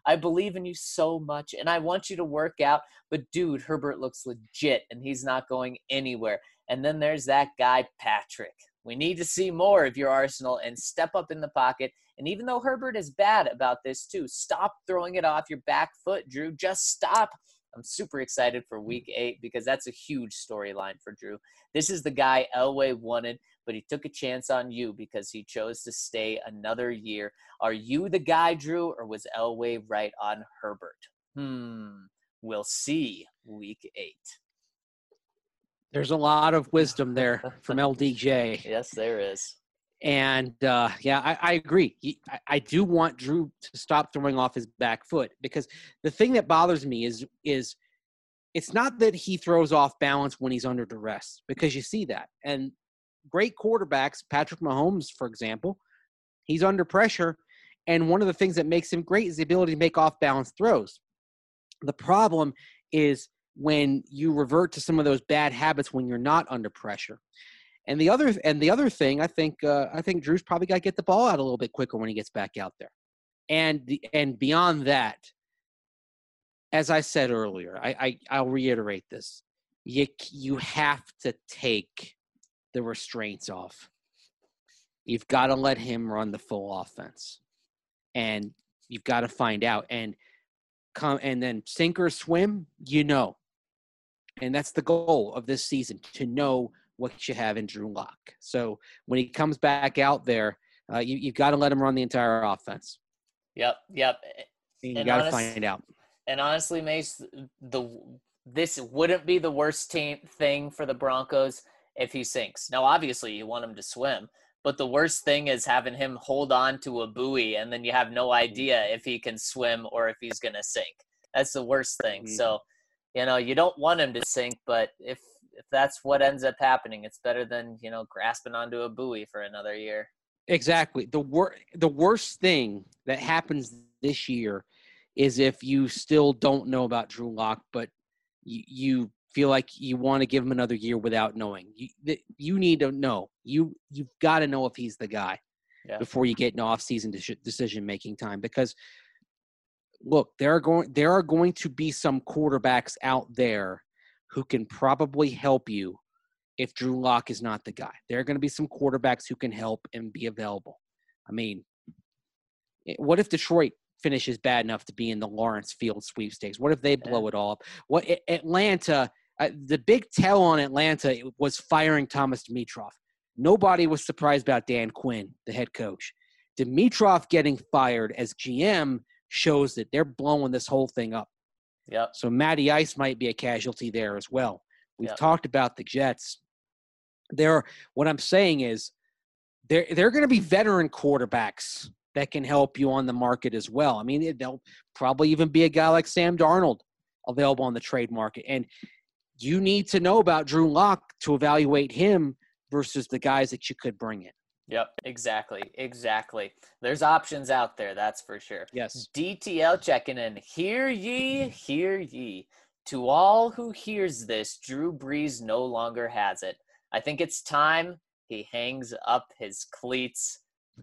I believe in you so much, and I want you to work out. But, dude, Herbert looks legit, and he's not going anywhere. And then there's that guy, Patrick. We need to see more of your arsenal and step up in the pocket. And even though Herbert is bad about this too, stop throwing it off your back foot, Drew. Just stop. I'm super excited for week eight because that's a huge storyline for Drew. This is the guy Elway wanted, but he took a chance on you because he chose to stay another year. Are you the guy, Drew, or was Elway right on Herbert? Hmm. We'll see week eight. There's a lot of wisdom there from L D J. Yes, there is. And, uh, yeah, I, I agree. He, I, I do want Drew to stop throwing off his back foot because the thing that bothers me is is it's not that he throws off balance when he's under duress, because you see that. And great quarterbacks, Patrick Mahomes, for example, he's under pressure, and one of the things that makes him great is the ability to make off-balance throws. The problem is when you revert to some of those bad habits when you're not under pressure. And the other and the other thing, I think uh, I think Drew's probably got to get the ball out a little bit quicker when he gets back out there. And the, and beyond that, as I said earlier, I, I I'll reiterate this: you you have to take the restraints off. You've got to let him run the full offense, and you've got to find out and come and then sink or swim. You know, and that's the goal of this season, to know what you have in Drew Lock. So when he comes back out there, uh, you, you've got to let him run the entire offense. Yep, yep. And you got to find out. And honestly, Mace, the this wouldn't be the worst team thing for the Broncos if he sinks. Now, obviously, you want him to swim, but the worst thing is having him hold on to a buoy, and then you have no idea if he can swim or if he's going to sink. That's the worst thing. Mm-hmm. So, you know, you don't want him to sink, but if if that's what ends up happening, it's better than, you know, grasping onto a buoy for another year. Exactly. The wor- the worst thing that happens this year is if you still don't know about Drew Lock, but you, you feel like you want to give him another year without knowing. You, th- you need to know. You, you've got to know if he's the guy yeah. before you get in off-season de- decision-making time. Because, look, there are going there are going to be some quarterbacks out there who can probably help you if Drew Lock is not the guy. There are going to be some quarterbacks who can help and be available. I mean, what if Detroit finishes bad enough to be in the Lawrence Field sweepstakes? What if they blow yeah. it all up? What Atlanta, uh, the big tell on Atlanta was firing Thomas Dimitroff. Nobody was surprised about Dan Quinn, the head coach. Dimitroff getting fired as G M shows that they're blowing this whole thing up. Yep. So Matty Ice might be a casualty there as well. We've yep. talked about the Jets. There, what I'm saying is there there are going to be veteran quarterbacks that can help you on the market as well. I mean, there'll probably even be a guy like Sam Darnold available on the trade market. And you need to know about Drew Lock to evaluate him versus the guys that you could bring in. Yep, exactly, exactly. There's options out there, that's for sure. Yes. D T L checking in. Hear ye, hear ye. To all who hears this, Drew Brees no longer has it. I think it's time he hangs up his cleats.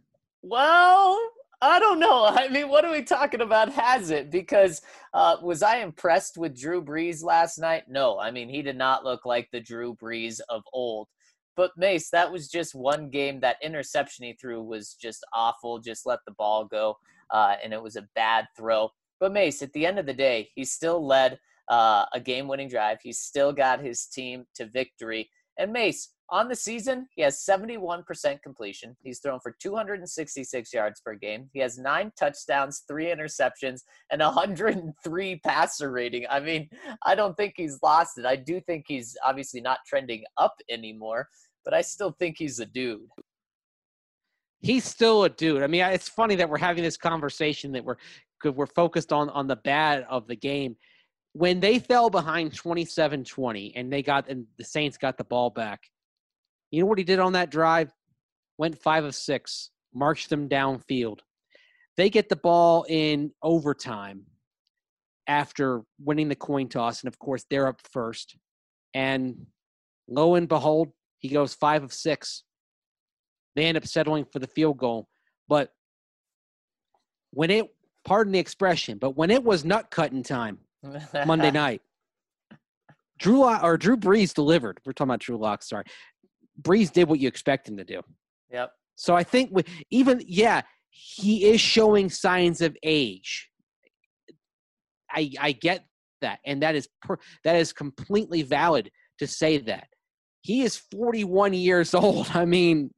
Well, I don't know. I mean, what are we talking about has it? Because uh, was I impressed with Drew Brees last night? No. I mean, he did not look like the Drew Brees of old. But, Mace, that was just one game. That interception he threw was just awful. Just let the ball go, uh, and it was a bad throw. But, Mace, at the end of the day, he still led uh, a game-winning drive. He still got his team to victory. And, Mace, on the season, he has seventy-one percent completion. He's thrown for two hundred sixty-six yards per game. He has nine touchdowns, three interceptions, and one hundred three passer rating. I mean, I don't think he's lost it. I do think he's obviously not trending up anymore, but I still think he's a dude. He's still a dude. I mean, it's funny that we're having this conversation that we're we're focused on on the bad of the game. When they fell behind twenty-seven twenty and they got and the Saints got the ball back, you know what he did on that drive? Went five of six, marched them downfield. They get the ball in overtime after winning the coin toss, and of course they're up first. And lo and behold, he goes five of six. They end up settling for the field goal. But when it pardon the expression, but when it was nut cutting time Monday night, Drew Lock, or Drew Brees delivered. We're talking about Drew Lock, sorry. Brees did what you expect him to do. Yep. So I think with, even, yeah, he is showing signs of age. I I get that, and that is per, that is completely valid to say that. He is forty-one years old. I mean,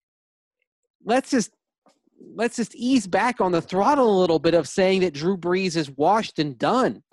let's just let's just ease back on the throttle a little bit of saying that Drew Brees is washed and done.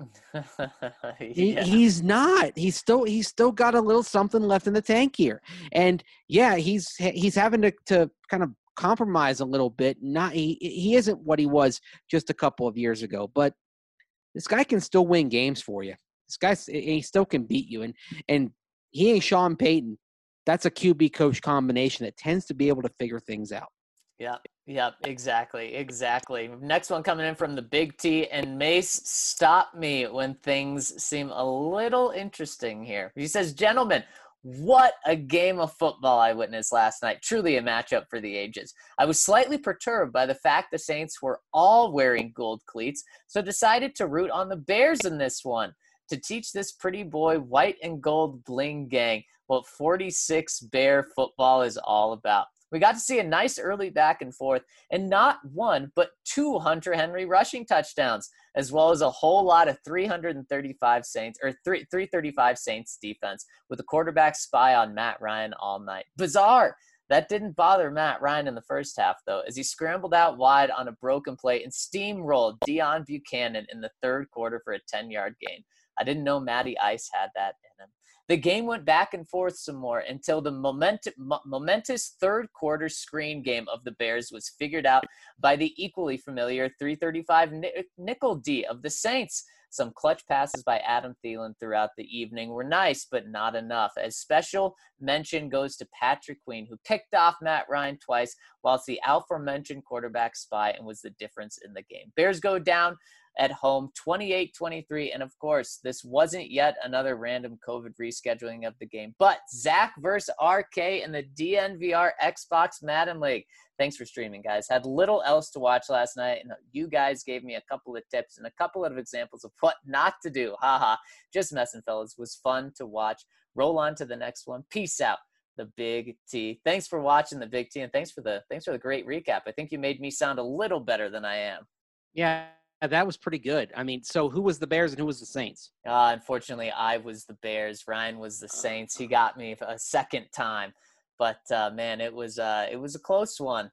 yeah. he, he's not. He's still he's still got a little something left in the tank here. And yeah, he's he's having to, to kind of compromise a little bit. Not he he isn't what he was just a couple of years ago, but this guy can still win games for you. This guy he still can beat you, and and he ain't Sean Payton. That's a Q B coach combination that tends to be able to figure things out. Yep, yep, exactly, exactly. Next one coming in from the Big T, and Mace, stop me when things seem a little interesting here. He says, gentlemen, what a game of football I witnessed last night. Truly a matchup for the ages. I was slightly perturbed by the fact the Saints were all wearing gold cleats, so decided to root on the Bears in this one to teach this pretty boy white and gold bling gang what forty-six Bear football is all about. We got to see a nice early back and forth, and not one, but two Hunter Henry rushing touchdowns, as well as a whole lot of three thirty-five Saints, or three thirty-five Saints defense, with the quarterback spy on Matt Ryan all night. Bizarre. That didn't bother Matt Ryan in the first half, though, as he scrambled out wide on a broken play and steamrolled Deion Buchanan in the third quarter for a ten-yard gain. I didn't know Matty Ice had that in him. The game went back and forth some more until the moment, momentous third quarter screen game of the Bears was figured out by the equally familiar three thirty-five nickel D of the Saints. Some clutch passes by Adam Thielen throughout the evening were nice, but not enough. As special mention goes to Patrick Queen, who picked off Matt Ryan twice, whilst the aforementioned quarterback spy and was the difference in the game. Bears go down at home, twenty-eight twenty-three. And of course, this wasn't yet another random COVID rescheduling of the game, but Zach versus R K in the D N V R Xbox Madden League. Thanks for streaming, guys. Had little else to watch last night, and you guys gave me a couple of tips and a couple of examples of what not to do. Haha. Just messing, fellas. It was fun to watch. Roll on to the next one. Peace out. The Big T. Thanks for watching the Big T, and thanks for the thanks for the great recap. I think you made me sound a little better than I am. Yeah. That was pretty good. I mean, so who was the Bears and who was the Saints? Uh, unfortunately, I was the Bears. Ryan was the Saints. He got me a second time, but uh, man, it was uh, it was a close one.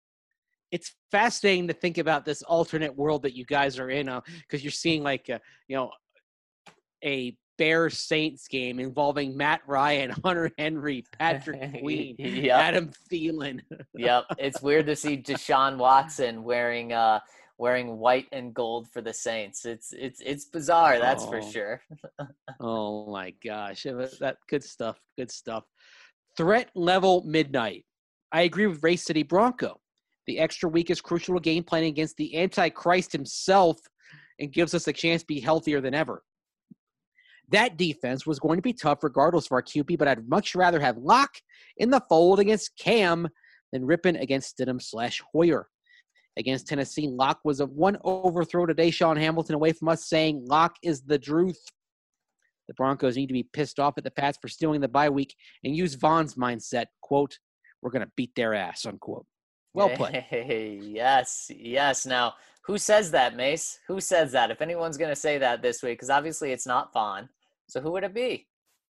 It's fascinating to think about this alternate world that you guys are in, because uh, you're seeing like a, you know a Bears Saints game involving Matt Ryan, Hunter Henry, Patrick Queen, yep. Adam Thielen. Yep, it's weird to see Deshaun Watson wearing. Uh, wearing white and gold for the Saints. It's it's it's bizarre, that's oh. for sure. Oh my gosh. That good stuff. Good stuff. Threat level midnight. I agree with Race City Bronco. The extra week is crucial to game planning against the Antichrist himself and gives us a chance to be healthier than ever. That defense was going to be tough regardless of our Q B, but I'd much rather have Locke in the fold against Cam than Rippin against Stidham slash Hoyer. Against Tennessee, Locke was a one overthrow to Deshaun Hamilton away from us, saying Locke is the truth. The Broncos need to be pissed off at the Pats for stealing the bye week and use Vaughn's mindset, quote, we're going to beat their ass, unquote. Well played. Hey, yes, yes. Now, who says that, Mace? Who says that? If anyone's going to say that this week, because obviously it's not Vaughn. So who would it be?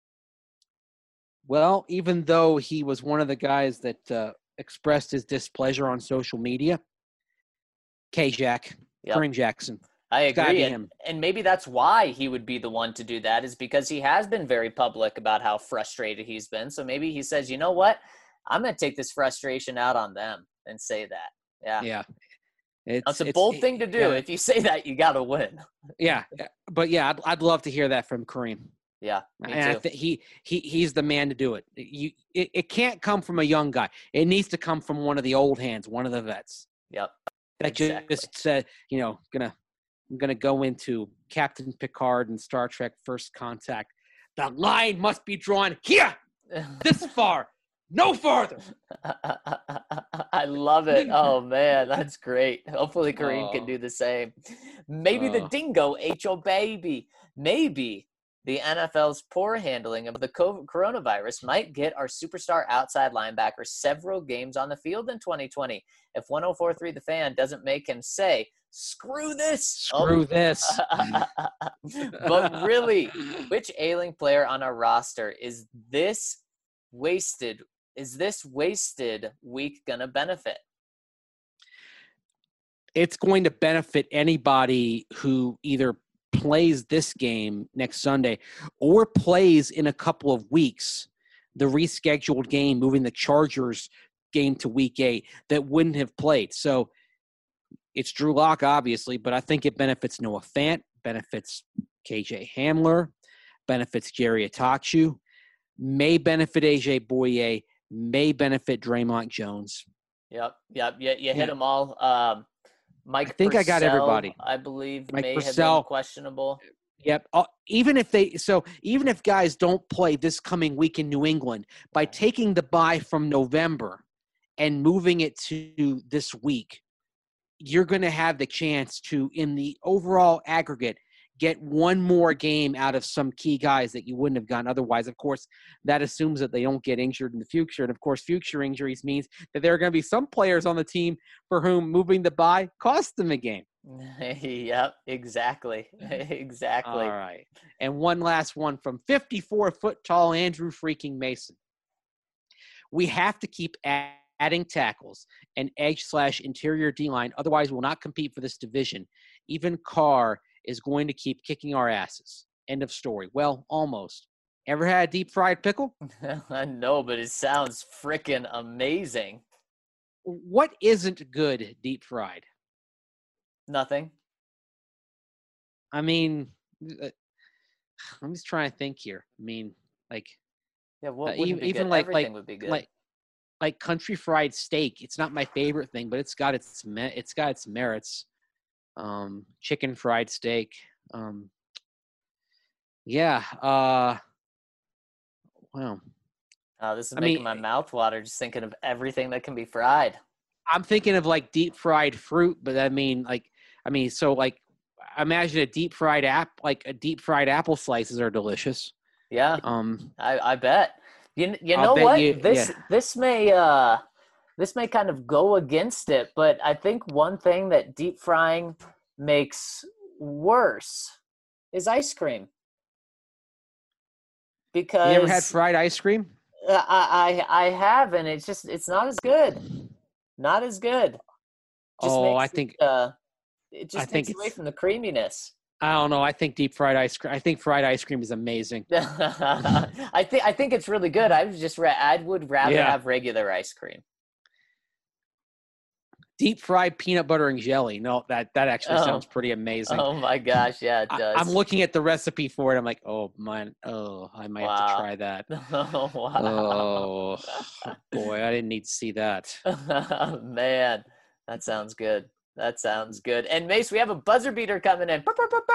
Well, even though he was one of the guys that uh, expressed his displeasure on social media, K-Jack, yep. Kareem Jackson. I agree. And, and maybe that's why he would be the one to do that, is because he has been very public about how frustrated he's been. So maybe he says, you know what? I'm going to take this frustration out on them and say that. Yeah. Yeah. It's, it's a bold it, thing to do. Yeah. If you say that, you got to win. Yeah. But yeah, I'd, I'd love to hear that from Kareem. Yeah. Me and too. I th- he, he, he's the man to do it. You, it. It can't come from a young guy. It needs to come from one of the old hands, one of the vets. Yep. That exactly. just said, you know, gonna I'm gonna go into Captain Picard and Star Trek First Contact. The line must be drawn here, this far, no farther. I love it. Oh, man, that's great. Hopefully Kareem can Oh. do the same. Maybe the Oh. dingo ate your baby. Maybe the N F L's poor handling of the COVID coronavirus might get our superstar outside linebacker several games on the field in twenty twenty. If one oh four point three The Fan doesn't make him say, screw this. Screw oh. this. But really, which ailing player on our roster is this wasted is this wasted week gonna benefit? It's going to benefit anybody who either plays this game next Sunday or plays in a couple of weeks the rescheduled game, moving the Chargers game to week eight, that wouldn't have played. So it's Drew Lock, obviously, but I think it benefits Noah Fant, benefits K J Hamler, benefits Jerry Atachu, may benefit A J Boye, may benefit Draymond Jones. Yep, yep, you, you hit Yeah. them all. Um, Mike I think I got Purcell, everybody. I believe Mike may have Purcell. been questionable. Yep. Uh, even if they so even if guys don't play this coming week in New England, by taking the bye from November and moving it to this week, you're going to have the chance to, in the overall aggregate, get one more game out of some key guys that you wouldn't have gotten otherwise. Of course, that assumes that they don't get injured in the future. And, of course, future injuries means that there are going to be some players on the team for whom moving the bye cost them a game. Yep, exactly. Exactly. All right. And one last one from fifty-four foot tall Andrew freaking Mason. We have to keep adding tackles and edge slash interior D-line. Otherwise, we'll not compete for this division. Even Carr is going to keep kicking our asses. End of story. Well, almost. Ever had a deep fried pickle? I know, but it sounds freaking amazing. What isn't good deep fried? Nothing. I mean, uh, I'm just trying to think here. I mean, like, Yeah, what uh, wouldn't even, be even good? like Everything like would be good. like like country fried steak. It's not my favorite thing, but it's got its me- it's got its merits. Um, chicken fried steak. Um, yeah. Uh, wow. Oh, this is I making mean, my mouth water just thinking of everything that can be fried. I'm thinking of like deep fried fruit, but I mean, like, I mean, so like, imagine a deep fried app, like a deep fried apple slices are delicious. Yeah, Um, I, I bet. You you I'll know bet what? you- this yeah. this may uh this may kind of go against it, but I think one thing that deep frying makes worse is ice cream. Because you ever had fried ice cream? I, I I have, and it's just it's not as good. Not as good. Just Oh, makes I it, think uh, it just I think takes away it's- from the creaminess. I don't know. I think deep fried ice cream. I think fried ice cream is amazing. I think I think it's really good. I was just ra- I would rather Yeah. have regular ice cream. Deep fried peanut butter and jelly. No, that that actually Oh. sounds pretty amazing. Oh my gosh, yeah, it I, does. I'm looking at the recipe for it. I'm like, oh man, oh, I might have to Wow. try that. Oh wow. Oh boy, I didn't need to see that. Man, that sounds good. That sounds good. And Mace, we have a buzzer beater coming in.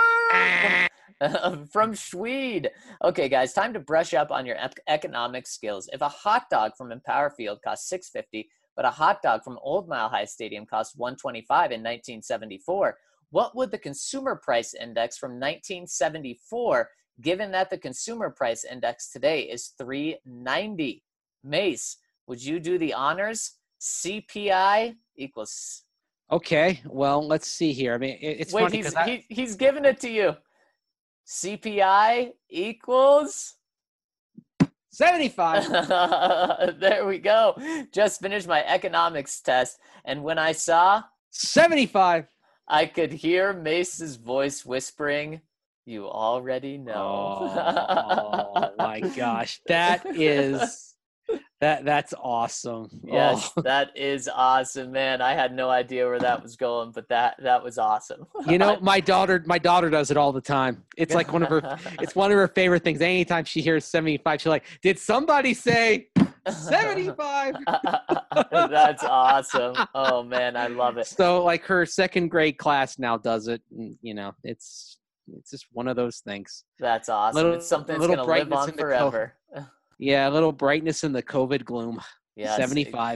From, from Swede. Okay, guys, time to brush up on your ec- economic skills. If a hot dog from Empower Field costs six fifty, but a hot dog from Old Mile High Stadium cost one twenty-five in nineteen seventy-four, what would the consumer price index from nineteen seventy-four, given that the consumer price index today is three ninety? Mace, would you do the honors? C P I equals. Okay, well, let's see here. I mean, it, it's Wait, funny he's because I, he, he's giving it to you. C P I equals. seventy-five. There we go. Just finished my economics test, and when I saw, seventy-five. I could hear Mace's voice whispering, "You already know." Oh, oh my gosh, that is that that's awesome. Yes, Oh. that is awesome, man. I had no idea where that was going, but that that was awesome. You know, my daughter, my daughter does it all the time. It's like one of her, it's one of her favorite things. Anytime she hears seventy-five, she's like, "Did somebody say seventy-five?" That's awesome. Oh man, I love it. So, like, her second grade class now does it. And, you know, it's it's just one of those things. That's awesome. Little- It's something that's little gonna live brightness on in the forever. Yeah, a little brightness in the COVID gloom. Yes, seventy-five.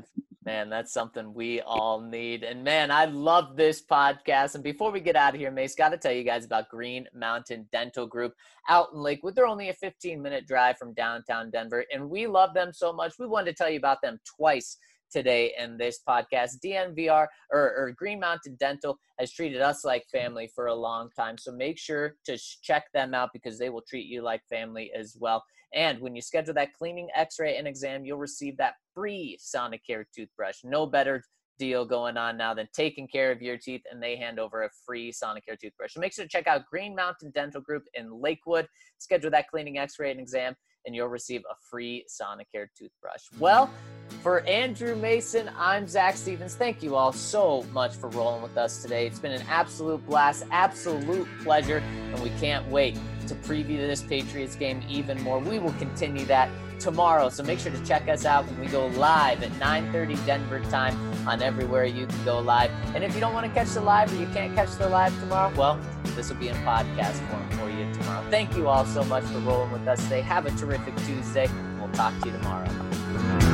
Man, that's something we all need. And man, I love this podcast. And before we get out of here, Mace, got to tell you guys about Green Mountain Dental Group out in Lakewood. They're only a fifteen minute drive from downtown Denver, and we love them so much. We wanted to tell you about them twice today in this podcast. D N V R or, or Green Mountain Dental has treated us like family for a long time. So make sure to check them out because they will treat you like family as well. And when you schedule that cleaning, x-ray, and exam, you'll receive that free Sonicare toothbrush. No better deal going on now than taking care of your teeth, and they hand over a free Sonicare toothbrush. So make sure to check out Green Mountain Dental Group in Lakewood. Schedule that cleaning, x-ray, and exam, and you'll receive a free Sonicare toothbrush. Well, for Andrew Mason, I'm Zach Stevens. Thank you all so much for rolling with us today. It's been an absolute blast, absolute pleasure, and we can't wait to preview this Patriots game even more. We will continue that tomorrow, so make sure to check us out when we go live at nine thirty Denver time on everywhere you can go live. And if you don't want to catch the live or you can't catch the live tomorrow, well, this will be in podcast form for you tomorrow. Thank you all so much for rolling with us today. Have a terrific Tuesday. We'll talk to you tomorrow.